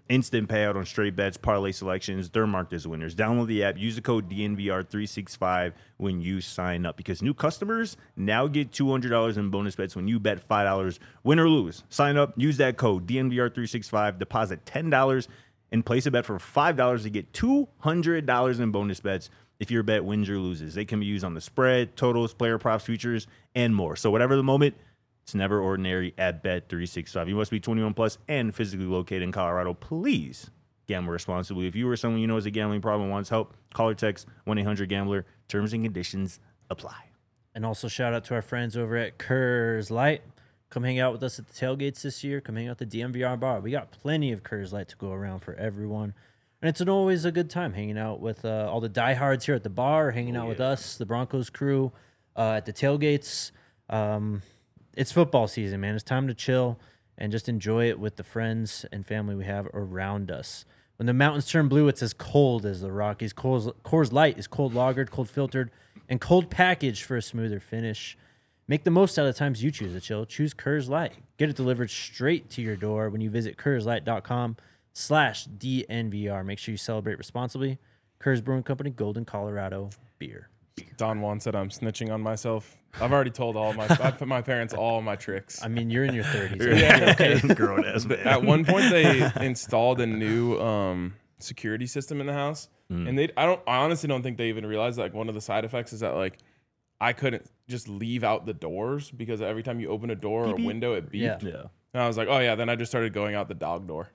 [SPEAKER 2] instant payout on straight bets, parlay selections. They're marked as winners. Download the app. Use the code D N V R three sixty-five when you sign up because new customers now get two hundred dollars in bonus bets when you bet five dollars, win or lose. Sign up. Use that code D N V R three sixty-five. Deposit ten dollars and place a bet for five dollars to get two hundred dollars in bonus bets if your bet wins or loses. They can be used on the spread, totals, player props, futures, and more. So whatever the moment, it's never ordinary at Bet three sixty-five. You must be twenty-one plus and physically located in Colorado. Please gamble responsibly. If you or someone you know has a gambling problem and wants help, call or text one eight hundred gambler. Terms and conditions apply.
[SPEAKER 3] And also shout out to our friends over at Coors Light. Come hang out with us at the tailgates this year. Come hang out at the D M V R bar. We got plenty of Coors Light to go around for everyone. And it's an always a good time hanging out with uh, all the diehards here at the bar, hanging oh, out yeah. with us, the Broncos crew, uh, at the tailgates. Um, it's football season, man. It's time to chill and just enjoy it with the friends and family we have around us. When the mountains turn blue, it's as cold as the Rockies. Coors, Coors Light is cold lagered, cold filtered, and cold packaged for a smoother finish. Make the most out of the times you choose to chill. Choose Coors Light. Get it delivered straight to your door when you visit Coors Light dot com slash D N V R. Make sure you celebrate responsibly. Coors Brewing Company, Golden, Colorado beer.
[SPEAKER 1] Don Juan said I'm snitching on myself. I've already told all my I put my parents all my tricks.
[SPEAKER 3] I mean, you're in your thirties.
[SPEAKER 1] Yeah.
[SPEAKER 3] Okay.
[SPEAKER 2] Grown ass man.
[SPEAKER 1] At one point, they installed a new um, security system in the house, mm. and they I don't I honestly don't think they even realized like one of the side effects is that like I couldn't just leave out the doors because every time you open a door or a window, it beeped.
[SPEAKER 3] Yeah. yeah.
[SPEAKER 1] And I was like, oh yeah. Then I just started going out the dog door.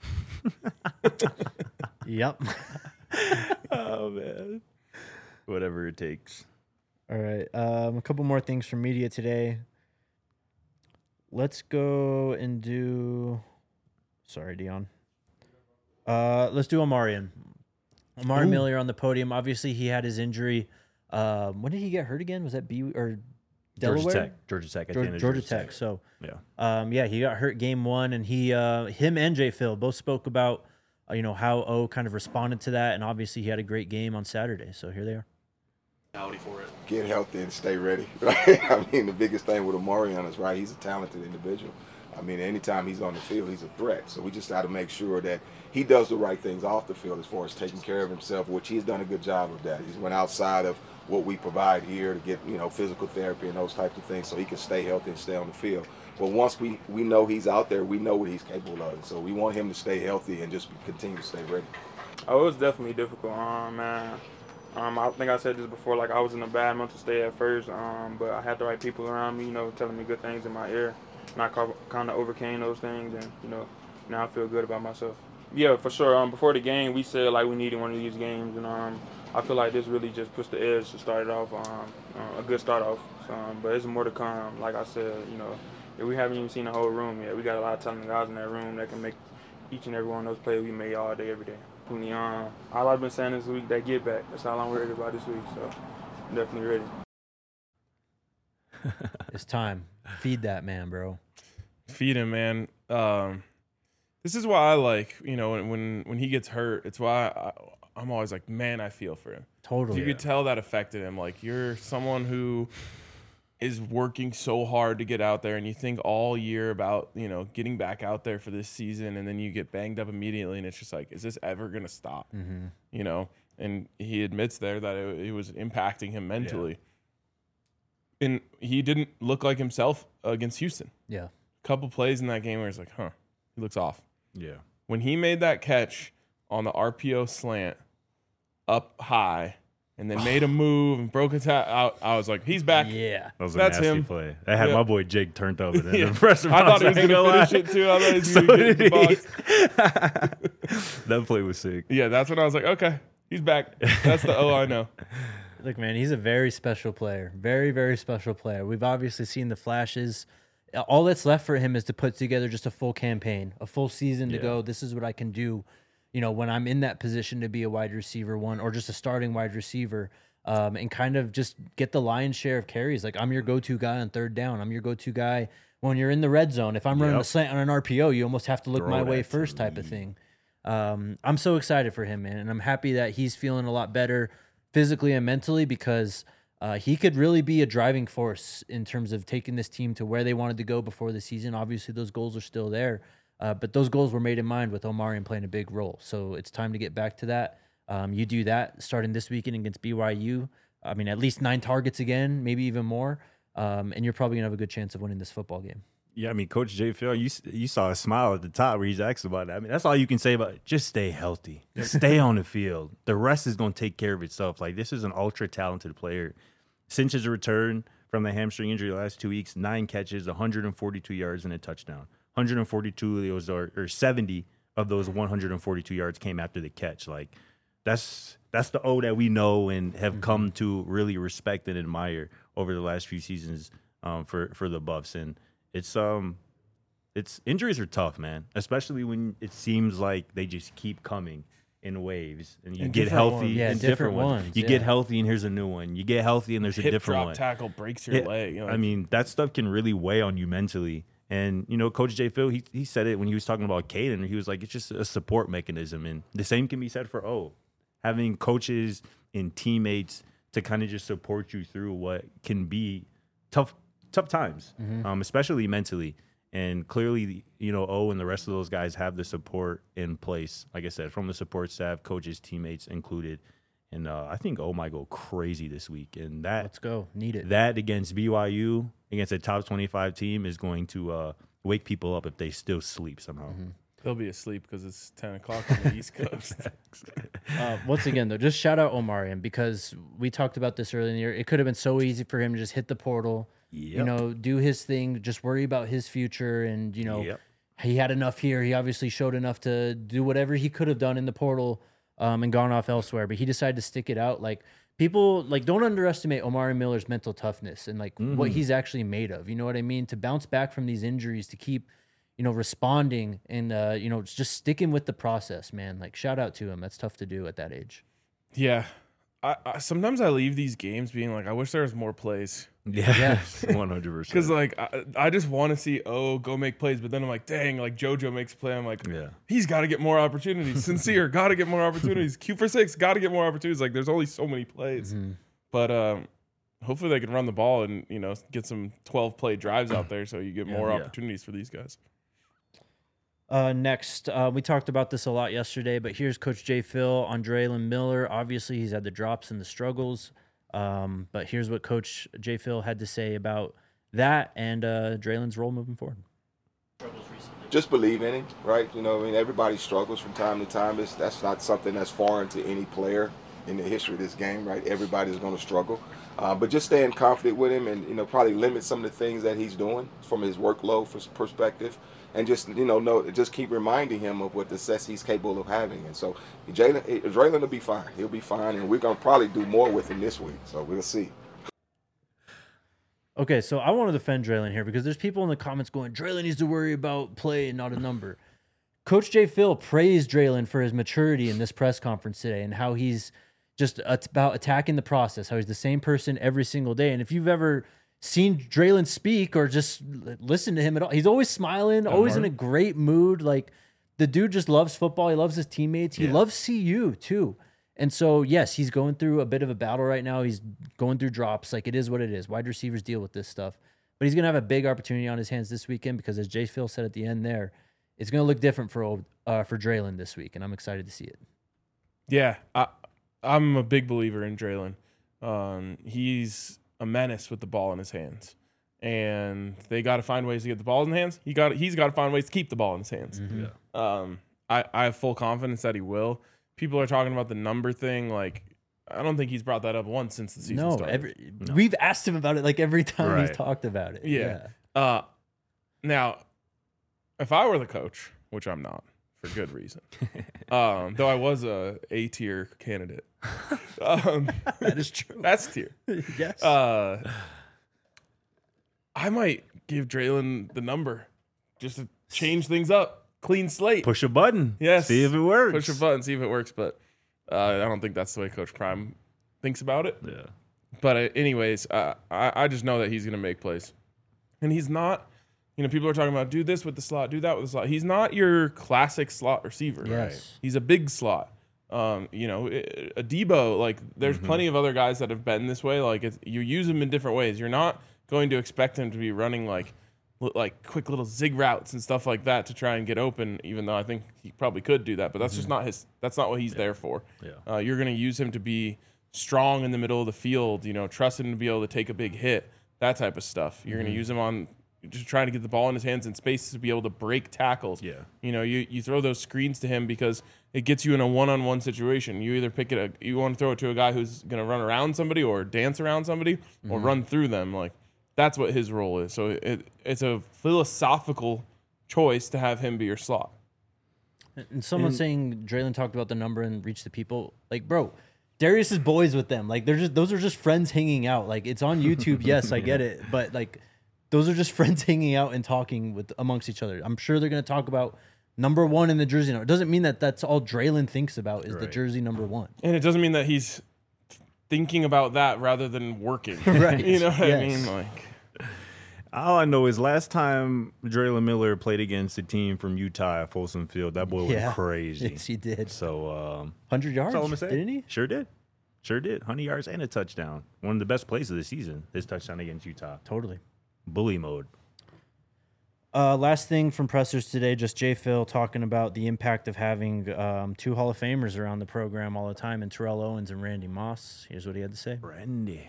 [SPEAKER 3] Yep.
[SPEAKER 2] Oh man. Whatever it takes.
[SPEAKER 3] All right. Um, a couple more things from media today. Let's go and do. Sorry, Dion. Uh, let's do Omarion. Amari Ooh. Miller on the podium. Obviously, he had his injury. Um, when did he get hurt again? Was that B or Delaware?
[SPEAKER 2] Georgia Tech. Georgia Tech. At
[SPEAKER 3] Georgia,
[SPEAKER 2] the end of
[SPEAKER 3] Georgia,
[SPEAKER 2] Georgia
[SPEAKER 3] Tech.
[SPEAKER 2] Tech.
[SPEAKER 3] So
[SPEAKER 2] yeah,
[SPEAKER 3] um, yeah, he got hurt game one, and he, uh, him and Jay Phil both spoke about, uh, you know, how O kind of responded to that, and obviously he had a great game on Saturday. So here they are.
[SPEAKER 7] For it.
[SPEAKER 5] Get healthy and stay ready. Right? I mean, the biggest thing with Omarion is right. He's a talented individual. I mean, anytime he's on the field, he's a threat. So we just got to make sure that he does the right things off the field as far as taking care of himself, which he's done a good job of that. He's went outside of what we provide here to get, you know, physical therapy and those types of things so he can stay healthy and stay on the field. But once we, we know he's out there, we know what he's capable of. So we want him to stay healthy and just continue to stay ready.
[SPEAKER 8] Oh, it was definitely difficult, um, man. Um, I think I said this before, like I was in a bad mental state at first, um, but I had the right people around me, you know, telling me good things in my ear. And I kind of overcame those things, and, you know, now I feel good about myself. Yeah, for sure. Um, before the game, we said, like, we needed one of these games, and um, I feel like this really just pushed the edge to start it off, um, uh, a good start off. So, um, but there's more to come. Like I said, you know, we haven't even seen the whole room yet. We got a lot of talented guys in that room that can make each and every one of those plays we made all day, every day. Um, all I've been saying this week, that get back. That's all I'm worried about this week, so I'm definitely ready.
[SPEAKER 3] It's time. Feed that man, bro.
[SPEAKER 1] Feed him, man. Um, this is why I like, you know, when when, when he gets hurt, it's why I, I'm always like, man, I feel for him.
[SPEAKER 3] Totally.
[SPEAKER 1] You
[SPEAKER 3] yeah.
[SPEAKER 1] could tell that affected him. Like, you're someone who is working so hard to get out there, and you think all year about, you know, getting back out there for this season, and then you get banged up immediately, and it's just like, is this ever going to stop?
[SPEAKER 3] Mm-hmm.
[SPEAKER 1] You know, and he admits there that it, it was impacting him mentally. Yeah. And he didn't look like himself against Houston.
[SPEAKER 3] Yeah.
[SPEAKER 1] A couple plays in that game where it's like, huh, he looks off.
[SPEAKER 2] Yeah.
[SPEAKER 1] When he made that catch on the R P O slant up high, and then made a move and broke a tap out, I was like, he's back.
[SPEAKER 3] Yeah.
[SPEAKER 2] That was a
[SPEAKER 1] That's
[SPEAKER 2] nasty
[SPEAKER 1] him.
[SPEAKER 2] play. That had
[SPEAKER 1] yeah.
[SPEAKER 2] my boy Jake turned over.
[SPEAKER 1] Yeah.
[SPEAKER 2] I thought
[SPEAKER 1] he was going to finish it, too. I thought he was
[SPEAKER 2] so
[SPEAKER 1] going to get
[SPEAKER 2] did
[SPEAKER 1] the box.
[SPEAKER 2] That play was sick.
[SPEAKER 1] Yeah, that's when I was like, okay, he's back. That's the O I know.
[SPEAKER 3] Look, man, he's a very special player. Very, very special player. We've obviously seen the flashes. All that's left for him is to put together just a full campaign, a full season to
[SPEAKER 2] Yeah.
[SPEAKER 3] go, this is what I can do, you know, when I'm in that position to be a wide receiver one or just a starting wide receiver. Um, and kind of just get the lion's share of carries. Like, I'm your go-to guy on third down. I'm your go-to guy when you're in the red zone. If I'm running
[SPEAKER 2] Yep.
[SPEAKER 3] a slant on an R P O, you almost have to look
[SPEAKER 2] Throw
[SPEAKER 3] my
[SPEAKER 2] it
[SPEAKER 3] way
[SPEAKER 2] at
[SPEAKER 3] first type
[SPEAKER 2] me.
[SPEAKER 3] of thing. Um, I'm so excited for him, man. And I'm happy that he's feeling a lot better physically and mentally because uh, he could really be a driving force in terms of taking this team to where they wanted to go before the season. Obviously, those goals are still there. Uh, but those goals were made in mind with Omarion playing a big role. So it's time to get back to that. Um, you do that starting this weekend against B Y U. I mean, at least nine targets again, maybe even more. Um, and you're probably going to have a good chance of winning this football game.
[SPEAKER 2] Yeah, I mean, Coach J. Phil, you you saw a smile at the top where he's asked about that. I mean, that's all you can say about it. Just stay healthy. Stay on the field. The rest is going to take care of itself. Like, this is an ultra-talented player. Since his return from the hamstring injury the last two weeks, nine catches, one hundred forty-two yards, and a touchdown. one hundred forty-two of those, are, or seventy of those one hundred forty-two yards came after the catch. Like, that's that's the O that we know and have mm-hmm. come to really respect and admire over the last few seasons um, for, for the Buffs. And It's um, it's injuries are tough, man. Especially when it seems like they just keep coming in waves, and you
[SPEAKER 3] and
[SPEAKER 2] get healthy.
[SPEAKER 3] Ones. Yeah,
[SPEAKER 2] and
[SPEAKER 3] different,
[SPEAKER 2] different
[SPEAKER 3] ones.
[SPEAKER 2] ones. You
[SPEAKER 3] yeah.
[SPEAKER 2] get healthy, and here's a new one. You get healthy, and there's
[SPEAKER 1] Hip
[SPEAKER 2] a different
[SPEAKER 1] drop
[SPEAKER 2] one.
[SPEAKER 1] Tackle breaks your
[SPEAKER 2] yeah,
[SPEAKER 1] leg. You know,
[SPEAKER 2] I mean, that stuff can really weigh on you mentally. And you know, Coach J. Phil, he he said it when he was talking about Caden. He was like, it's just a support mechanism, and the same can be said for O. Having coaches and teammates to kind of just support you through what can be tough tough times, mm-hmm. um, especially mentally. And clearly, you know, O and the rest of those guys have the support in place, like I said, from the support staff, coaches, teammates included. And uh, I think O might go crazy this week. And that
[SPEAKER 3] let's go, need it.
[SPEAKER 2] That against B Y U, against a top twenty-five team, is going to uh, wake people up if they still sleep somehow.
[SPEAKER 3] Mm-hmm.
[SPEAKER 1] They'll be asleep because it's ten o'clock on the East Coast.
[SPEAKER 3] uh, once again, though, just shout out Omarion, because we talked about this earlier in the year. It could have been so easy for him to just hit the portal. Yep. You know, do his thing, just worry about his future. And, you know, yep. he had enough here. He obviously showed enough to do whatever he could have done in the portal um, and gone off elsewhere. But he decided to stick it out. Like, people, like, don't underestimate Omarion Miller's mental toughness and, like, mm-hmm. what he's actually made of. You know what I mean? To bounce back from these injuries, to keep, you know, responding and, uh, you know, just sticking with the process, man. Like, shout out to him. That's tough to do at that age.
[SPEAKER 1] Yeah. I, I sometimes I leave these games being like, I wish there was more plays.
[SPEAKER 2] Yeah, yes, one hundred percent.
[SPEAKER 1] Because like I, I just want to see O go make plays, but then I'm like, dang, like JoJo makes a play. I'm like, yeah, he's got to get more opportunities. Sincere, got to get more opportunities. Q for six, got to get more opportunities. Like, there's only so many plays, mm-hmm. but um, hopefully they can run the ball and, you know, get some twelve play drives out there so you get yeah, more yeah. opportunities for these guys.
[SPEAKER 3] Uh, next, uh, we talked about this a lot yesterday, but here's Coach J. Phil on Draylen Miller. Obviously, he's had the drops and the struggles, um, but here's what Coach J. Phil had to say about that and uh, Draylen's role moving forward.
[SPEAKER 5] Just believe in him, right? You know, I mean, everybody struggles from time to time. It's, that's not something that's foreign to any player in the history of this game, right? Everybody's going to struggle. Uh, but just staying confident with him and, you know, probably limit some of the things that he's doing from his workload perspective. And just, you know, know, just keep reminding him of what the success he's capable of having. And so Jalen, Draylen will be fine. He'll be fine. And we're going to probably do more with him this week. So we'll see.
[SPEAKER 3] Okay, so I want to defend Draylen here because there's people in the comments going, Draylen needs to worry about play and not a number. Coach J. Phil praised Draylen for his maturity in this press conference today and how he's just about attacking the process, how he's the same person every single day. And if you've ever seen Draylen speak or just listen to him at all, he's always smiling, Good always morning. in a great mood. Like, the dude just loves football. He loves his teammates. He yeah. loves C U too. And so, yes, he's going through a bit of a battle right now. He's going through drops. Like, it is what it is. Wide receivers deal with this stuff. But he's going to have a big opportunity on his hands this weekend because, as J. Phil said at the end there, it's going to look different for old, uh, for Draylen this week, and I'm excited to see it.
[SPEAKER 1] Yeah, I, I'm a big believer in Draylen. Um, he's a menace with the ball in his hands, and they got to find ways to get the ball in his hands. He got he's got to find ways to keep the ball in his hands.
[SPEAKER 3] Mm-hmm.
[SPEAKER 1] Yeah. Um, I, I have full confidence that he will. People are talking about the number thing. Like, I don't think he's brought that up once since the season
[SPEAKER 3] no,
[SPEAKER 1] started.
[SPEAKER 3] Every, no, we've asked him about it like every time
[SPEAKER 2] right.
[SPEAKER 3] he's talked about it.
[SPEAKER 1] Yeah. yeah. Uh, now, if I were the coach, which I'm not, for good reason, um, though I was a A tier candidate. Um,
[SPEAKER 3] that is true.
[SPEAKER 1] That's tier.
[SPEAKER 3] Yes.
[SPEAKER 1] Uh, I might give Draylen the number just to change things up. Clean slate.
[SPEAKER 2] Push a button.
[SPEAKER 1] Yes.
[SPEAKER 2] See if it works.
[SPEAKER 1] Push a button, see if it works. But uh, I don't think that's the way Coach Prime thinks about it.
[SPEAKER 2] Yeah.
[SPEAKER 1] But uh, anyways, uh, I, I just know that he's going to make plays. And he's not, you know, people are talking about do this with the slot, do that with the slot. He's not your classic slot receiver.
[SPEAKER 3] Yes.
[SPEAKER 1] Right? He's a big slot. Um, you know, a Debo, like, there's mm-hmm. plenty of other guys that have been this way. Like, it's, you use him in different ways. You're not going to expect him to be running, like, li- like quick little zig routes and stuff like that to try and get open. Even though I think he probably could do that, but that's just not his. That's not what he's there for.
[SPEAKER 2] Yeah.
[SPEAKER 1] Uh, you're going to use him to be strong in the middle of the field. You know, trust him to be able to take a big hit. That type of stuff. You're going to use him on just trying to get the ball in his hands in space to be able to break tackles.
[SPEAKER 2] Yeah.
[SPEAKER 1] You know, you, you throw those screens to him because it gets you in a one-on-one situation. You either pick it, a, you want to throw it to a guy who's going to run around somebody or dance around somebody or
[SPEAKER 3] Mm-hmm.
[SPEAKER 1] run through them. Like that's what his role is. So it, it's a philosophical choice to have him be your slot.
[SPEAKER 3] And someone saying Draylon talked about the number and reach the people. Like, bro, Darius is boys with them. Like, they're just those are just friends hanging out. Like, it's on YouTube. Yes, I get it, but like, those are just friends hanging out and talking with amongst each other. I'm sure they're going to talk about number one in the jersey number. It doesn't mean that that's all Draylon thinks about is the
[SPEAKER 2] Right.
[SPEAKER 3] jersey number one.
[SPEAKER 1] And it doesn't mean that he's thinking about that rather than working.
[SPEAKER 3] Right.
[SPEAKER 1] You know what
[SPEAKER 3] Yes.
[SPEAKER 1] I mean? Like,
[SPEAKER 2] All I know is last time Draylon Miller played against a team from Utah at Folsom Field, that boy
[SPEAKER 3] Yeah.
[SPEAKER 2] went crazy.
[SPEAKER 3] Yes, he did.
[SPEAKER 2] So um,
[SPEAKER 3] Hundred yards.
[SPEAKER 2] that's all I'm gonna say.
[SPEAKER 3] Didn't he?
[SPEAKER 2] Sure did. Sure did. one hundred yards and a touchdown. One of the best plays of the season. His touchdown against Utah.
[SPEAKER 3] Totally.
[SPEAKER 2] Bully mode.
[SPEAKER 3] Uh, last thing from pressers today, just Jay Phil talking about the impact of having um, two Hall of Famers around the program all the time, and Terrell Owens and Randy Moss. Here's what he had to say.
[SPEAKER 2] Randy.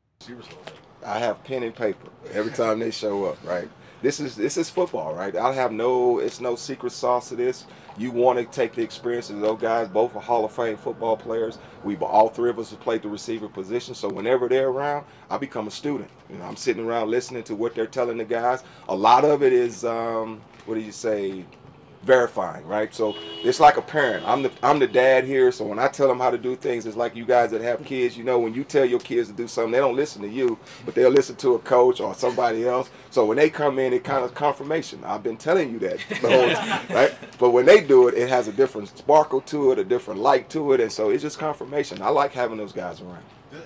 [SPEAKER 5] I have pen and paper every time they show up, right? This is this is football, right? I have no, it's no secret sauce to this. You want to take the experiences of those guys. Both are Hall of Fame football players. We've all three of us have played the receiver position. So whenever they're around, I become a student. You know, I'm sitting around listening to what they're telling the guys. A lot of it is, um, what do you say? Verifying, right? So it's like a parent. I'm the I'm the dad here, so when I tell them how to do things, it's like you guys that have kids. You know, when you tell your kids to do something, they don't listen to you, but they'll listen to a coach or somebody else. So when they come in, it kind of confirmation. I've been telling you that the whole time, right? But when they do it, it has a different sparkle to it, a different light to it, and so it's just confirmation. I like having those guys around.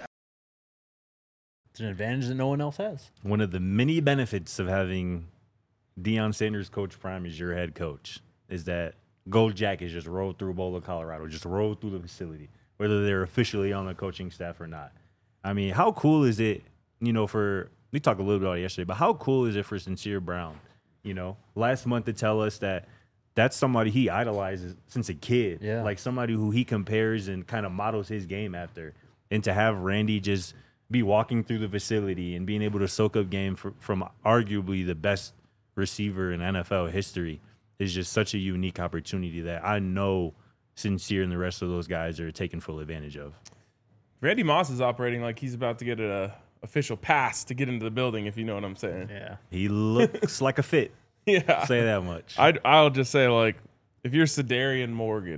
[SPEAKER 3] It's an advantage that no one else has.
[SPEAKER 2] One of the many benefits of having Deion Sanders coach prime as your head coach is that Gold Jackets just roll through Boulder, Colorado, just roll through the facility, whether they're officially on the coaching staff or not. I mean, how cool is it, you know, for, we talked a little bit about it yesterday, but how cool is it for Sincere Brown, you know, last month to tell us that that's somebody he idolizes since a kid,
[SPEAKER 3] Yeah.
[SPEAKER 2] like somebody who he compares and kind of models his game after, and to have Randy just be walking through the facility and being able to soak up game for, from arguably the best receiver in N F L history is just such a unique opportunity that I know Sincere and the rest of those guys are taking full advantage of.
[SPEAKER 1] Randy Moss is operating like he's about to get an official pass to get into the building, if you know what I'm saying.
[SPEAKER 3] Yeah.
[SPEAKER 2] He looks like a fit.
[SPEAKER 1] Yeah.
[SPEAKER 2] Say that much.
[SPEAKER 1] I'd, I'll just say, like, if you're Sedarian Morgan,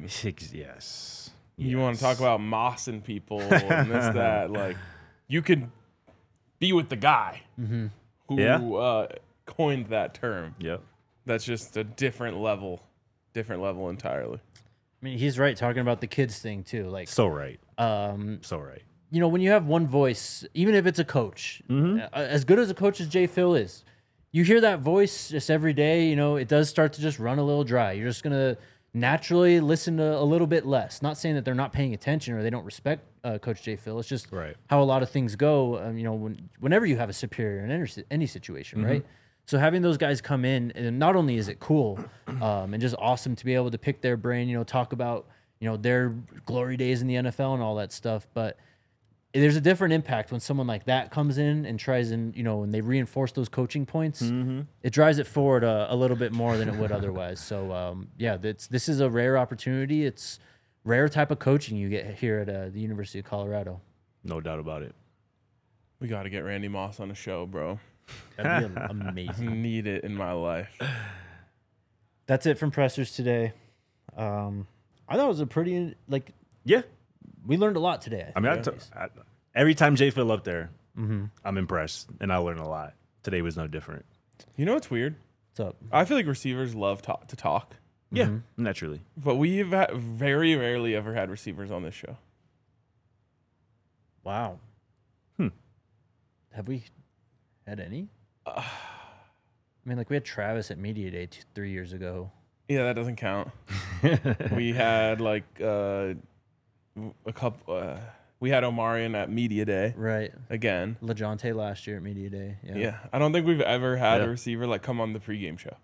[SPEAKER 2] yes.
[SPEAKER 1] you want to talk about Moss and people and this, that, like, you could be with the guy who
[SPEAKER 2] Yeah.
[SPEAKER 1] uh, coined that term.
[SPEAKER 2] Yep.
[SPEAKER 1] That's just a different level, different level entirely.
[SPEAKER 3] I mean, he's right talking about the kids thing too. Like,
[SPEAKER 2] So right.
[SPEAKER 3] um,
[SPEAKER 2] So right.
[SPEAKER 3] you know, when you have one voice, even if it's a coach, uh, as good as a coach as Jay Phil is, you hear that voice just every day. You know, it does start to just run a little dry. You're just gonna naturally listen to a little bit less. Not saying that they're not paying attention or they don't respect uh, Coach Jay Phil. It's just
[SPEAKER 2] Right.
[SPEAKER 3] how a lot of things go. Um, you know, when, whenever you have a superior in any, any situation, right? So having those guys come in, and not only is it cool um, and just awesome to be able to pick their brain, you know, talk about, you know, their glory days in the N F L and all that stuff, but there's a different impact when someone like that comes in and tries and, you know, and they reinforce those coaching points, it drives it forward a, a little bit more than it would otherwise. So, um, yeah, that's, this is a rare opportunity. It's rare type of coaching you get here at uh, the University of Colorado.
[SPEAKER 2] No doubt about it.
[SPEAKER 1] We got to get Randy Moss on the show, bro.
[SPEAKER 3] That'd be
[SPEAKER 1] I
[SPEAKER 3] amazing.
[SPEAKER 1] need it in my life.
[SPEAKER 3] That's it from pressers today. Um, I thought it was a pretty, like,
[SPEAKER 2] Yeah.
[SPEAKER 3] we learned a lot today.
[SPEAKER 2] I mean, I t- I, every time Jay Phil up there, I'm impressed and I learn a lot. Today was no different.
[SPEAKER 1] You know what's weird?
[SPEAKER 3] What's up?
[SPEAKER 1] I feel like receivers love to, to talk,
[SPEAKER 2] Yeah, naturally.
[SPEAKER 1] but we've ha- very rarely ever had receivers on this show.
[SPEAKER 3] Wow.
[SPEAKER 2] Hmm.
[SPEAKER 3] Have we had any? I mean, like we had Travis at Media Day two, three years ago.
[SPEAKER 1] Yeah, that doesn't count. We had like uh, a couple. Uh, We had Omarion at Media Day
[SPEAKER 3] Right.
[SPEAKER 1] again.
[SPEAKER 3] LeJontay last year at Media Day. Yeah.
[SPEAKER 1] Yeah. I don't think we've ever had
[SPEAKER 2] Yeah.
[SPEAKER 1] a receiver like come on the pregame show.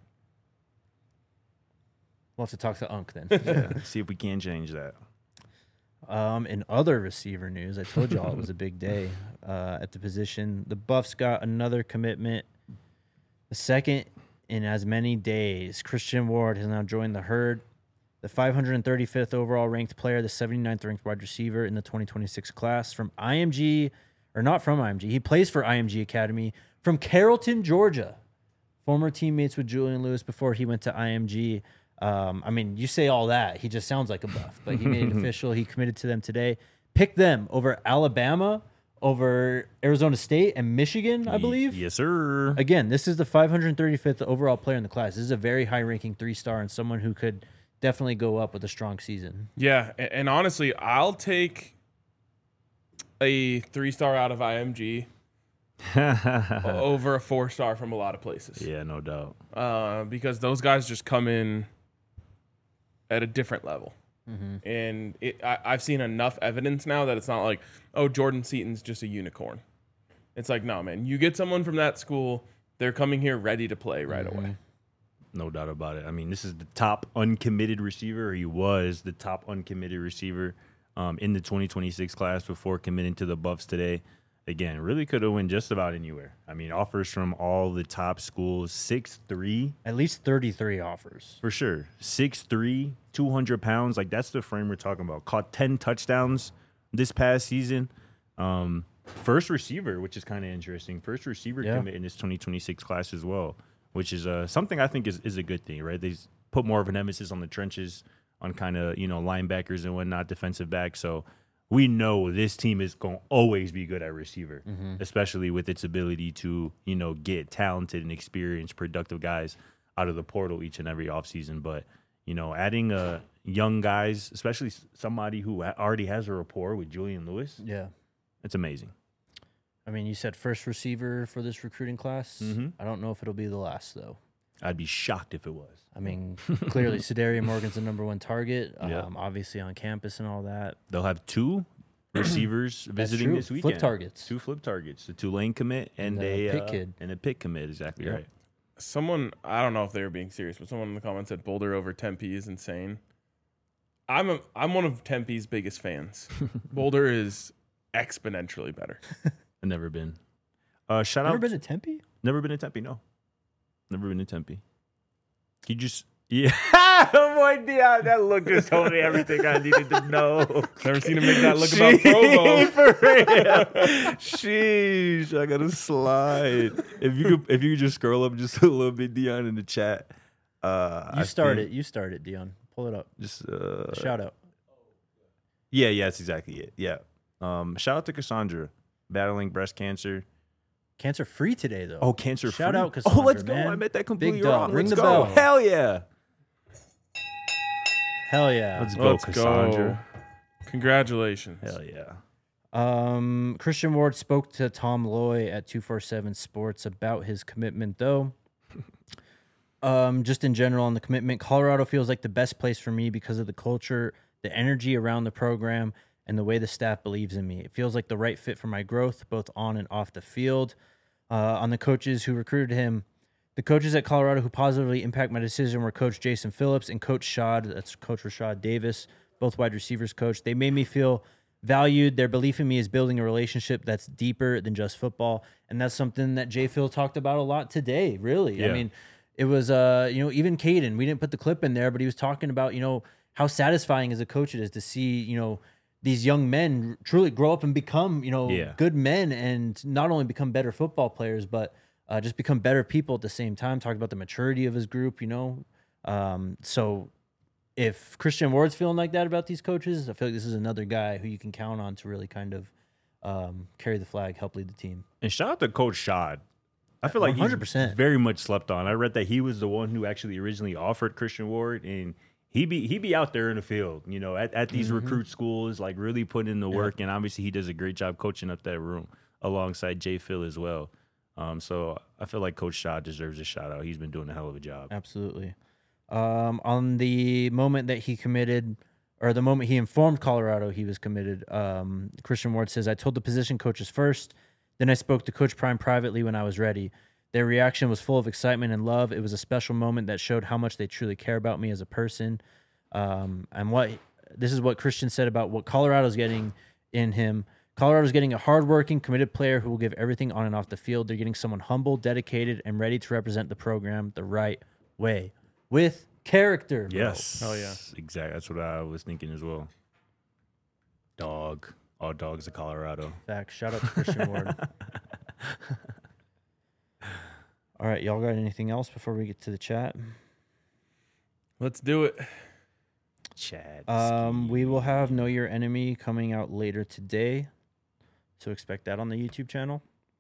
[SPEAKER 3] We'll have to talk to Unk then.
[SPEAKER 2] Yeah, see if we can change that.
[SPEAKER 3] Um, in other receiver news, I told y'all it was a big day uh, at the position. The Buffs got another commitment, the second in as many days. Christian Ward has now joined the herd. The five hundred thirty-fifth overall ranked player, the seventy-ninth ranked wide receiver in the twenty twenty-six class from I M G, or not from I M G. He plays for I M G Academy from Carrollton, Georgia. Former teammates with Julian Lewis before he went to I M G. Um, I mean, you say all that, he just sounds like a Buff, but he made it official. He committed to them today. Picked them over Alabama, over Arizona State, and Michigan, I believe.
[SPEAKER 2] Yes, sir.
[SPEAKER 3] Again, this is the five hundred thirty-fifth overall player in the class. This is a very high-ranking three-star and someone who could definitely go up with a strong season.
[SPEAKER 1] Yeah, a- and honestly, I'll take a three star out of I M G over a four star from a lot of places.
[SPEAKER 2] Yeah, no doubt.
[SPEAKER 1] Uh, because those guys just come in at a different level.
[SPEAKER 3] Mm-hmm.
[SPEAKER 1] And it, I, I've seen enough evidence now that it's not like, oh, Jordan Seaton's just a unicorn. It's like, no, man, you get someone from that school, they're coming here ready to play right
[SPEAKER 3] Mm-hmm.
[SPEAKER 1] away.
[SPEAKER 2] No doubt about it. I mean, this is the top uncommitted receiver. Or he was the top uncommitted receiver um, in the twenty twenty-six class before committing to the Buffs today. Again, really could have went just about anywhere. I mean, offers from all the top schools, six three.
[SPEAKER 3] At least thirty-three offers.
[SPEAKER 2] For sure. six three, two hundred pounds. Like, that's the frame we're talking about. Caught ten touchdowns this past season. Um, first receiver, which is kind of interesting. First receiver
[SPEAKER 3] Yeah.
[SPEAKER 2] commit in this twenty twenty-six class as well, which is uh, something I think is, is a good thing, right? They put more of an emphasis on the trenches, on kind of, you know, linebackers and whatnot, defensive back. So we know this team is going to always be good at receiver,
[SPEAKER 3] Mm-hmm.
[SPEAKER 2] especially with its ability to, you know, get talented and experienced, productive guys out of the portal each and every offseason. But, you know, adding uh, young guys, especially somebody who ha- already has a rapport with Julian Lewis,
[SPEAKER 3] Yeah.
[SPEAKER 2] it's amazing.
[SPEAKER 3] I mean, you said first receiver for this recruiting class.
[SPEAKER 2] Mhm.
[SPEAKER 3] I don't know if it'll be the last, though.
[SPEAKER 2] I'd be shocked if it was.
[SPEAKER 3] I mean, clearly, Sadaria Morgan's the number one target, um,
[SPEAKER 2] Yeah.
[SPEAKER 3] obviously on campus and all that.
[SPEAKER 2] They'll have two receivers visiting
[SPEAKER 3] true.
[SPEAKER 2] this
[SPEAKER 3] Flip
[SPEAKER 2] weekend.
[SPEAKER 3] targets.
[SPEAKER 2] Two flip targets. The Tulane commit and,
[SPEAKER 3] And
[SPEAKER 2] a
[SPEAKER 3] a Pitt
[SPEAKER 2] uh,
[SPEAKER 3] kid.
[SPEAKER 2] And a Pitt commit, exactly
[SPEAKER 3] Yep.
[SPEAKER 2] right.
[SPEAKER 1] Someone, I don't know if they were being serious, but someone in the comments said Boulder over Tempe is insane. I'm a, I'm one of Tempe's biggest fans. Boulder is exponentially better.
[SPEAKER 2] I've never been. Uh, shout
[SPEAKER 3] Never
[SPEAKER 2] out.
[SPEAKER 3] been to Tempe?
[SPEAKER 2] Never been to Tempe, no. Never been to Tempe. He just, yeah. Oh, boy, Dion, that look just told me everything I needed to know.
[SPEAKER 1] Never seen him make that look about Provo.
[SPEAKER 2] For real. Sheesh, I gotta slide. If you could, if you could just scroll up just a little bit, Dion, in the chat. Uh,
[SPEAKER 3] You
[SPEAKER 2] I
[SPEAKER 3] start
[SPEAKER 2] think
[SPEAKER 3] it. You start it, Dion. Pull it up.
[SPEAKER 2] Just uh,
[SPEAKER 3] Shout out.
[SPEAKER 2] yeah, yeah, that's exactly it. Yeah. Um, shout out to Cassandra, battling breast cancer.
[SPEAKER 3] Cancer free today, though.
[SPEAKER 2] Oh, cancer free.
[SPEAKER 3] Shout out,
[SPEAKER 2] Oh,
[SPEAKER 3] Cassandra,
[SPEAKER 2] let's go.
[SPEAKER 3] man.
[SPEAKER 2] I meant that completely
[SPEAKER 3] Big dub.
[SPEAKER 2] wrong.
[SPEAKER 3] Ring
[SPEAKER 2] Let's
[SPEAKER 3] the
[SPEAKER 2] go.
[SPEAKER 3] bell.
[SPEAKER 2] Hell yeah.
[SPEAKER 3] Hell yeah.
[SPEAKER 2] Let's go,
[SPEAKER 1] Let's
[SPEAKER 2] Cassandra.
[SPEAKER 1] go. Congratulations.
[SPEAKER 2] Hell yeah.
[SPEAKER 3] Um, Christian Ward spoke to Tom Loy at two forty-seven Sports about his commitment, though. Um, just in general on the commitment, Colorado feels like the best place for me because of the culture, the energy around the program, and the way the staff believes in me. It feels like the right fit for my growth, both on and off the field. Uh, on the coaches who recruited him, the coaches at Colorado who positively impact my decision were Coach Jason Phillips and Coach Shad. That's Coach Rashad Davis, both wide receivers coach. They made me feel valued. Their belief in me is building a relationship that's deeper than just football. And that's something that Jay Phil talked about a lot today, really.
[SPEAKER 2] Yeah.
[SPEAKER 3] I mean, it was, uh, you know, even Caden, we didn't put the clip in there, but he was talking about, you know, how satisfying as a coach it is to see, you know, these young men truly grow up and become, you know,
[SPEAKER 2] Yeah.
[SPEAKER 3] good men and not only become better football players, but uh, just become better people at the same time. Talking about the maturity of his group, you know. Um, so if Christian Ward's feeling like that about these coaches, I feel like this is another guy who you can count on to really kind of um, carry the flag, help lead the team.
[SPEAKER 2] And shout out to Coach Shad. I feel like
[SPEAKER 3] one hundred percent.
[SPEAKER 2] he's very much slept on. I read that he was the one who actually originally offered Christian Ward, and he be he be out there in the field, you know, at, at these
[SPEAKER 3] Mm-hmm.
[SPEAKER 2] recruit schools, like really putting in the work. And obviously, he does a great job coaching up that room alongside Jay Phil as well. Um, so I feel like Coach Shad deserves a shout out. He's been doing a hell of a job.
[SPEAKER 3] Absolutely. Um, on the moment that he committed, or the moment he informed Colorado he was committed. Um, Christian Ward says, I told the position coaches first, then I spoke to Coach Prime privately when I was ready. Their reaction was full of excitement and love. It was a special moment that showed how much they truly care about me as a person. Um, and what this is what Christian said about what Colorado's getting in him. Colorado's getting a hardworking, committed player who will give everything on and off the field. They're getting someone humble, dedicated, and ready to represent the program the right way with character. Bro.
[SPEAKER 2] Yes.
[SPEAKER 1] Hell yeah.
[SPEAKER 2] Exactly. That's what I was thinking as well. Dog. All dogs of Colorado.
[SPEAKER 3] Facts. Shout out to Christian Ward. All right, y'all got anything else before we get to the chat?
[SPEAKER 1] Let's do it.
[SPEAKER 2] Chad.
[SPEAKER 3] Um, we will have Know Your Enemy coming out later today, so expect that on the YouTube channel.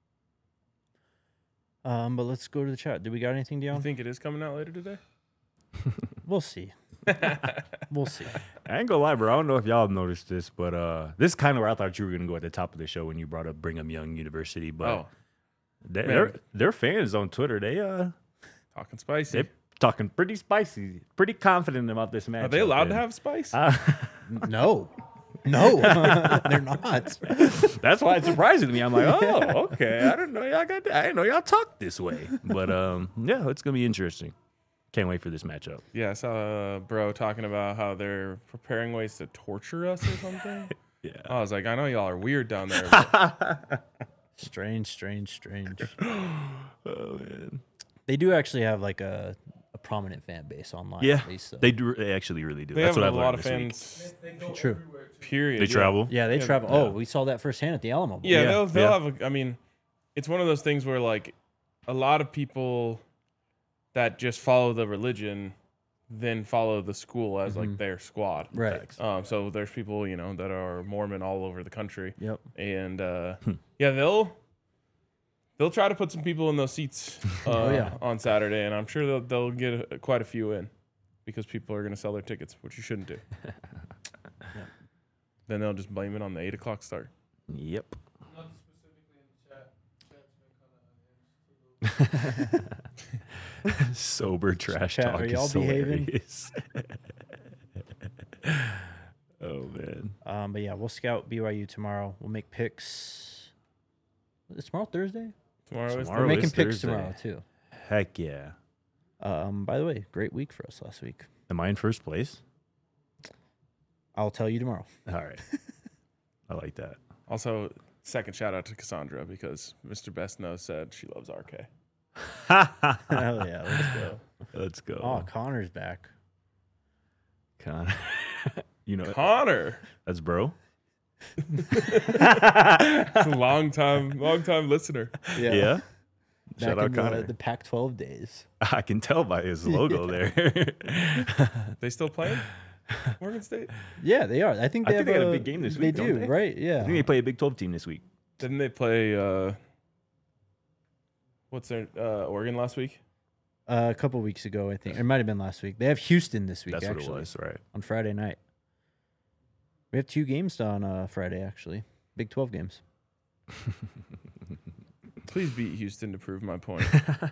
[SPEAKER 3] Um, but let's go to the chat. Do we got anything,
[SPEAKER 1] You
[SPEAKER 3] Dion?
[SPEAKER 1] think it is coming out later today?
[SPEAKER 3] We'll see. We'll see.
[SPEAKER 2] I ain't gonna lie, bro. I don't know if y'all have noticed this, but uh, this is kind of where I thought you were gonna go at the top of the show when you brought up Brigham Young University. But
[SPEAKER 1] Oh,
[SPEAKER 2] they,
[SPEAKER 1] man.
[SPEAKER 2] they're they're fans on Twitter. They uh
[SPEAKER 1] talking spicy.
[SPEAKER 2] they talking pretty spicy, pretty confident about this match.
[SPEAKER 1] Are they allowed to have spice?
[SPEAKER 2] Uh,
[SPEAKER 3] No. No, they're not.
[SPEAKER 2] that's why it's surprising to me. I'm like, oh, okay. I didn't know y'all got. I didn't know y'all talked this way. But um, yeah, it's gonna be interesting. Can't wait for this matchup.
[SPEAKER 1] Yeah, I saw a bro talking about how they're preparing ways to torture us or something.
[SPEAKER 2] Yeah.
[SPEAKER 1] I was like, I know y'all are weird down there. But
[SPEAKER 3] Strange, strange, strange.
[SPEAKER 2] Oh man.
[SPEAKER 3] They do actually have like a, a prominent fan base online.
[SPEAKER 2] Yeah,
[SPEAKER 3] at least, so.
[SPEAKER 2] they do. They actually really do.
[SPEAKER 1] they
[SPEAKER 2] That's
[SPEAKER 1] have
[SPEAKER 2] what
[SPEAKER 1] a
[SPEAKER 2] I've
[SPEAKER 1] lot
[SPEAKER 2] learned
[SPEAKER 1] of
[SPEAKER 2] this week.
[SPEAKER 1] fans.
[SPEAKER 3] True.
[SPEAKER 1] Period.
[SPEAKER 2] They
[SPEAKER 1] yeah.
[SPEAKER 2] travel.
[SPEAKER 3] Yeah, they
[SPEAKER 1] Yeah,
[SPEAKER 3] travel.
[SPEAKER 1] yeah.
[SPEAKER 3] Oh, we saw that firsthand at the Alamo Bowl.
[SPEAKER 1] Yeah,
[SPEAKER 2] Yeah,
[SPEAKER 1] they'll they'll
[SPEAKER 2] yeah.
[SPEAKER 1] have. A, I mean, it's one of those things where like a lot of people that just follow the religion then follow the school as like their squad.
[SPEAKER 3] Right.
[SPEAKER 1] Um, so there's people you know that are Mormon all over the country,
[SPEAKER 3] Yep.
[SPEAKER 1] and uh, yeah, they'll they'll try to put some people in those seats uh,
[SPEAKER 3] Oh, yeah.
[SPEAKER 1] on Saturday, and I'm sure they'll they'll get a, quite a few in because people are going to sell their tickets, which you shouldn't do. Then they'll just blame it on the eight o'clock start.
[SPEAKER 2] Yep. Sober trash
[SPEAKER 3] Chat,
[SPEAKER 2] talk
[SPEAKER 3] are
[SPEAKER 2] is
[SPEAKER 3] y'all behaving?
[SPEAKER 2] hilarious. Oh man.
[SPEAKER 3] Um, but yeah, we'll scout B Y U tomorrow. We'll make picks. Is tomorrow Thursday?
[SPEAKER 1] Tomorrow, is
[SPEAKER 2] Tomorrow
[SPEAKER 3] We're making
[SPEAKER 2] is
[SPEAKER 3] picks
[SPEAKER 2] Thursday.
[SPEAKER 3] tomorrow too.
[SPEAKER 2] Heck yeah.
[SPEAKER 3] Um, by the way, great week for us last week.
[SPEAKER 2] Am I in first place?
[SPEAKER 3] I'll tell you tomorrow.
[SPEAKER 2] All right. I like that.
[SPEAKER 1] Also, second shout out to Cassandra because Mister Best Knows said she loves R K.
[SPEAKER 3] Hell yeah, let's go.
[SPEAKER 2] Let's go.
[SPEAKER 3] Oh, Connor's back.
[SPEAKER 2] Con- you know,
[SPEAKER 1] Connor,
[SPEAKER 2] that's bro.
[SPEAKER 1] long time, long time listener.
[SPEAKER 2] Yeah.
[SPEAKER 3] Back
[SPEAKER 2] Shout out
[SPEAKER 3] in the,
[SPEAKER 2] Connor.
[SPEAKER 3] the Pac twelve days.
[SPEAKER 2] I can tell by his logo there.
[SPEAKER 1] They still playing Morgan State?
[SPEAKER 3] Yeah, they are. I think
[SPEAKER 2] I
[SPEAKER 3] they
[SPEAKER 2] think
[SPEAKER 3] have
[SPEAKER 2] they got a
[SPEAKER 3] a
[SPEAKER 2] big game this
[SPEAKER 3] They
[SPEAKER 2] week, don't
[SPEAKER 3] do,
[SPEAKER 2] they?
[SPEAKER 3] right? Yeah.
[SPEAKER 2] I think they play a Big twelve team this week.
[SPEAKER 1] Didn't they play? Uh, what's their uh, Oregon last week?
[SPEAKER 3] Uh, a couple weeks ago, I think. It might have been last week. They have Houston this week,
[SPEAKER 2] That's
[SPEAKER 3] actually,
[SPEAKER 2] what it was, right?
[SPEAKER 3] on Friday night. We have two games on uh, Friday, actually. Big twelve games.
[SPEAKER 1] Please beat Houston to prove my point.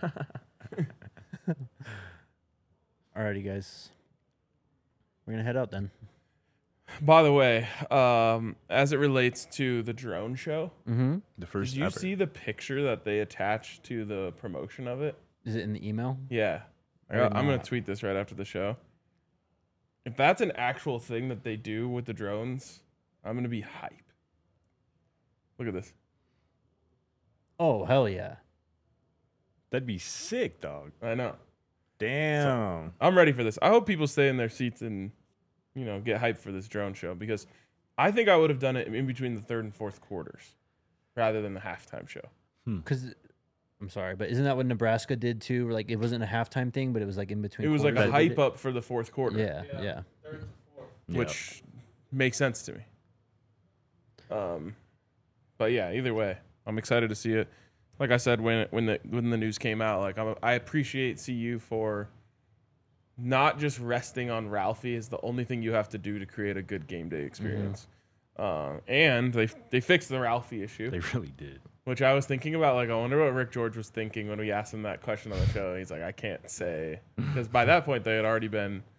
[SPEAKER 3] Alrighty, guys. We're going to head out then.
[SPEAKER 1] By the way, um, as it relates to the drone show,
[SPEAKER 3] Mm-hmm.
[SPEAKER 2] The first
[SPEAKER 1] did you
[SPEAKER 2] ever.
[SPEAKER 1] see the picture that they attached to the promotion of it?
[SPEAKER 3] Is it in the email?
[SPEAKER 1] Yeah.
[SPEAKER 3] I did
[SPEAKER 1] I'm going
[SPEAKER 3] not.
[SPEAKER 1] to tweet this right after the show. If that's an actual thing that they do with the drones, I'm going to be hype. Look at this.
[SPEAKER 3] Oh, hell yeah.
[SPEAKER 2] That'd be sick, dog.
[SPEAKER 1] I know.
[SPEAKER 2] Damn.
[SPEAKER 1] I'm ready for this. I hope people stay in their seats and, you know, get hyped for this drone show because I think I would have done it in between the third and fourth quarters rather than the halftime show.
[SPEAKER 3] Because, I'm sorry, but isn't that what Nebraska did too? Where, like, it wasn't a halftime thing, but it was like in between
[SPEAKER 1] It was like
[SPEAKER 3] quarters
[SPEAKER 1] a
[SPEAKER 3] they did
[SPEAKER 1] hype
[SPEAKER 3] it?
[SPEAKER 1] up for the fourth quarter.
[SPEAKER 3] Yeah, yeah.
[SPEAKER 1] Which makes sense to me. Um, but yeah, either way, I'm excited to see it. Like I said when it, when the when the news came out, like I'm, I appreciate C U for not just resting on Ralphie is the only thing you have to do to create a good game day experience. Uh, and they they fixed the Ralphie issue,
[SPEAKER 2] They really did.
[SPEAKER 1] which I was thinking about. Like I wonder what Rick George was thinking when we asked him that question on the show. He's like, I can't say because by that point they had already been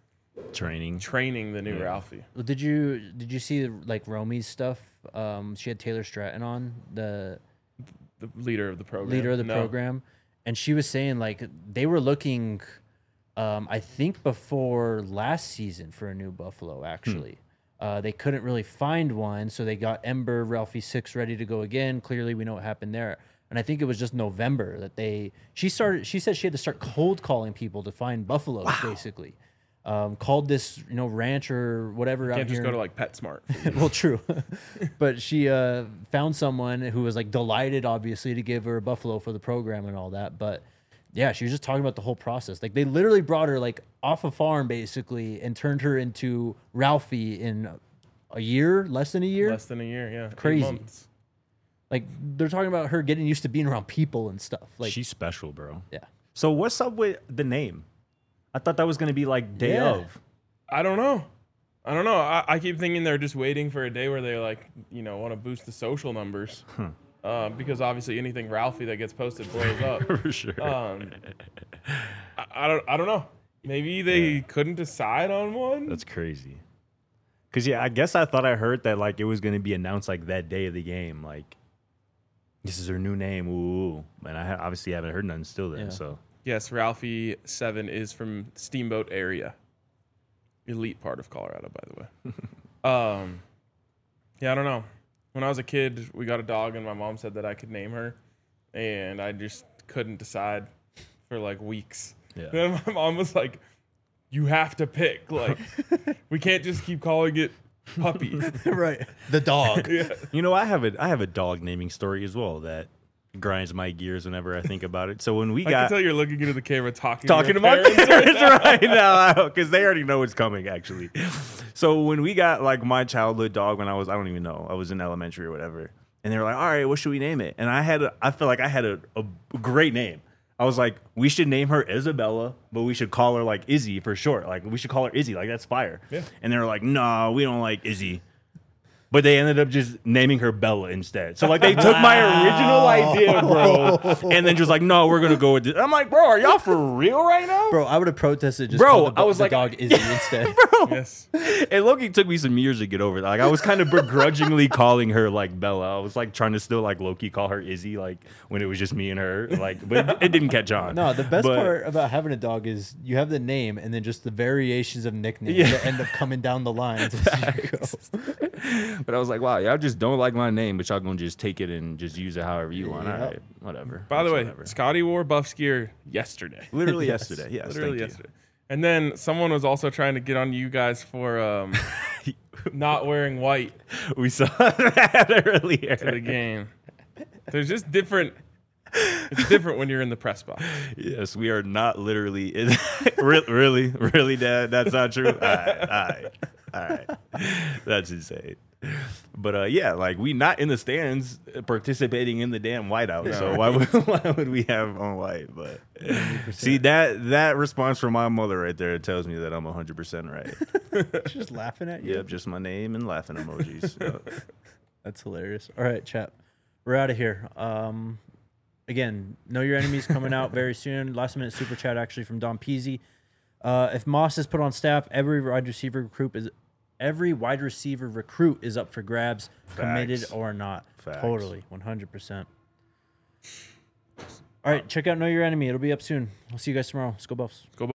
[SPEAKER 2] training.
[SPEAKER 1] training the new
[SPEAKER 2] Yeah.
[SPEAKER 1] Ralphie.
[SPEAKER 3] Well, Did you did you see like Romy's stuff? Um, she had Taylor Stratton on, the
[SPEAKER 1] The leader of the program.
[SPEAKER 3] leader of the
[SPEAKER 1] No.
[SPEAKER 3] program, and she was saying like they were looking, um, I think before last season for a new Buffalo. Actually, uh, they couldn't really find one, so they got Ember, Ralphie Six ready to go again. Clearly, we know what happened there. And I think it was just November that they she started. She said she had to start cold calling people to find buffaloes, basically. Um, called this, you know, ranch or whatever out
[SPEAKER 1] Can't just
[SPEAKER 3] here.
[SPEAKER 1] go to like PetSmart.
[SPEAKER 3] Well, true, but she uh, found someone who was like delighted, obviously, to give her a buffalo for the program and all that. But yeah, she was just talking about the whole process. Like they literally brought her like off a farm, basically, and turned her into Ralphie in a year, less than a year.
[SPEAKER 1] Less than a year, yeah. Eight
[SPEAKER 3] Crazy.
[SPEAKER 1] months.
[SPEAKER 3] Like they're talking about her getting used to being around people and stuff. Like
[SPEAKER 2] She's special, bro.
[SPEAKER 3] yeah,
[SPEAKER 2] So what's up with the name? I thought that was gonna be like day
[SPEAKER 3] Yeah.
[SPEAKER 2] of.
[SPEAKER 1] I don't know. I don't know. I, I keep thinking they're just waiting for a day where they like, you know, want to boost the social numbers. Uh, because obviously anything Ralphie that gets posted blows up.
[SPEAKER 2] For sure.
[SPEAKER 1] Um, I, I don't. I don't know. Maybe they
[SPEAKER 2] Yeah.
[SPEAKER 1] couldn't decide on one.
[SPEAKER 2] That's crazy. Cause yeah, I guess I thought I heard that like it was gonna be announced like that day of the game. Like this is her new name. Ooh, and I ha- obviously haven't heard nothing still then.
[SPEAKER 3] Yeah.
[SPEAKER 2] So
[SPEAKER 1] Yes, Ralphie Seven is from Steamboat area, elite part of Colorado, by the way. um, yeah, I don't know. When I was a kid, we got a dog, and my mom said that I could name her, and I just couldn't decide for like weeks.
[SPEAKER 2] Yeah.
[SPEAKER 1] Then my mom was like, "You have to pick. Like, we can't just keep calling it Puppy."
[SPEAKER 3] right. The dog.
[SPEAKER 1] Yeah.
[SPEAKER 2] you know, I have a I have a dog naming story as well that grinds my gears whenever I think about it. So when we
[SPEAKER 1] I
[SPEAKER 2] got
[SPEAKER 1] can tell you're looking into the camera, talking
[SPEAKER 2] talking
[SPEAKER 1] to,
[SPEAKER 2] to
[SPEAKER 1] your
[SPEAKER 2] my
[SPEAKER 1] parents.
[SPEAKER 2] parents right now because they already know it's coming actually. So when we got like my childhood dog when I was I don't even know I was in elementary or whatever, and they were like, all right, what should we name it? And I had a, I feel like I had a, a great name. I was like, we should name her Isabella, but we should call her like Izzy for short. Like we should call her Izzy, like that's fire.
[SPEAKER 1] Yeah.
[SPEAKER 2] And they were like, no, we don't like Izzy. But they ended up just naming her Bella instead. So like they took my original idea, bro, and then just like, no, we're gonna go with this. I'm like, bro, are y'all for real right now?
[SPEAKER 3] Bro, I would have protested just
[SPEAKER 2] Bro,
[SPEAKER 3] called the,
[SPEAKER 2] I was
[SPEAKER 3] the
[SPEAKER 2] like-
[SPEAKER 3] dog Izzy instead.
[SPEAKER 1] Yes.
[SPEAKER 2] It low-key took me some years to get over that. Like I was kind of begrudgingly calling her like Bella. I was like trying to still like low-key call her Izzy, like when it was just me and her. Like, but it, it didn't catch on.
[SPEAKER 3] No, the best
[SPEAKER 2] But-
[SPEAKER 3] part about having a dog is you have the name and then just the variations of nicknames
[SPEAKER 2] Yeah.
[SPEAKER 3] that end up coming down the lines as you go.
[SPEAKER 2] But I was like, wow, y'all just don't like my name, but y'all gonna just take it and just use it however you want.
[SPEAKER 3] Yep.
[SPEAKER 2] All right, whatever.
[SPEAKER 1] By the way,
[SPEAKER 2] Whatever.
[SPEAKER 1] Scotty wore Buffs gear yesterday.
[SPEAKER 2] literally
[SPEAKER 3] Yes.
[SPEAKER 2] yesterday. Yes,
[SPEAKER 1] Literally
[SPEAKER 2] thank you.
[SPEAKER 1] yesterday. And then someone was also trying to get on you guys for um, not wearing white
[SPEAKER 2] We saw that earlier.
[SPEAKER 1] to the game. There's just different. It's different when you're in the press box.
[SPEAKER 2] Yes, we are not literally. In, Re- really, really, Dad. That's not true. All right, all right, all right. That's insane. But uh, yeah, like we not in the stands participating in the damn whiteout. So why would why would we have on white? But see that that response from my mother right there tells me that I'm one hundred percent right.
[SPEAKER 3] She's just laughing at you.
[SPEAKER 2] Yep, just my name and laughing emojis. Yep.
[SPEAKER 3] That's hilarious. All right, chat. We're out of here. Um, again, Know Your Enemies coming out very soon. Last minute super chat actually from Don Peasy. Uh, if Moss is put on staff, every wide receiver recruit is every wide receiver recruit is up for grabs, committed
[SPEAKER 2] Facts.
[SPEAKER 3] or not.
[SPEAKER 2] Facts.
[SPEAKER 3] Totally, one hundred percent. All right, check out Know Your Enemy. It'll be up soon. We'll see you guys tomorrow. Let's go Buffs.
[SPEAKER 1] Go Buffs.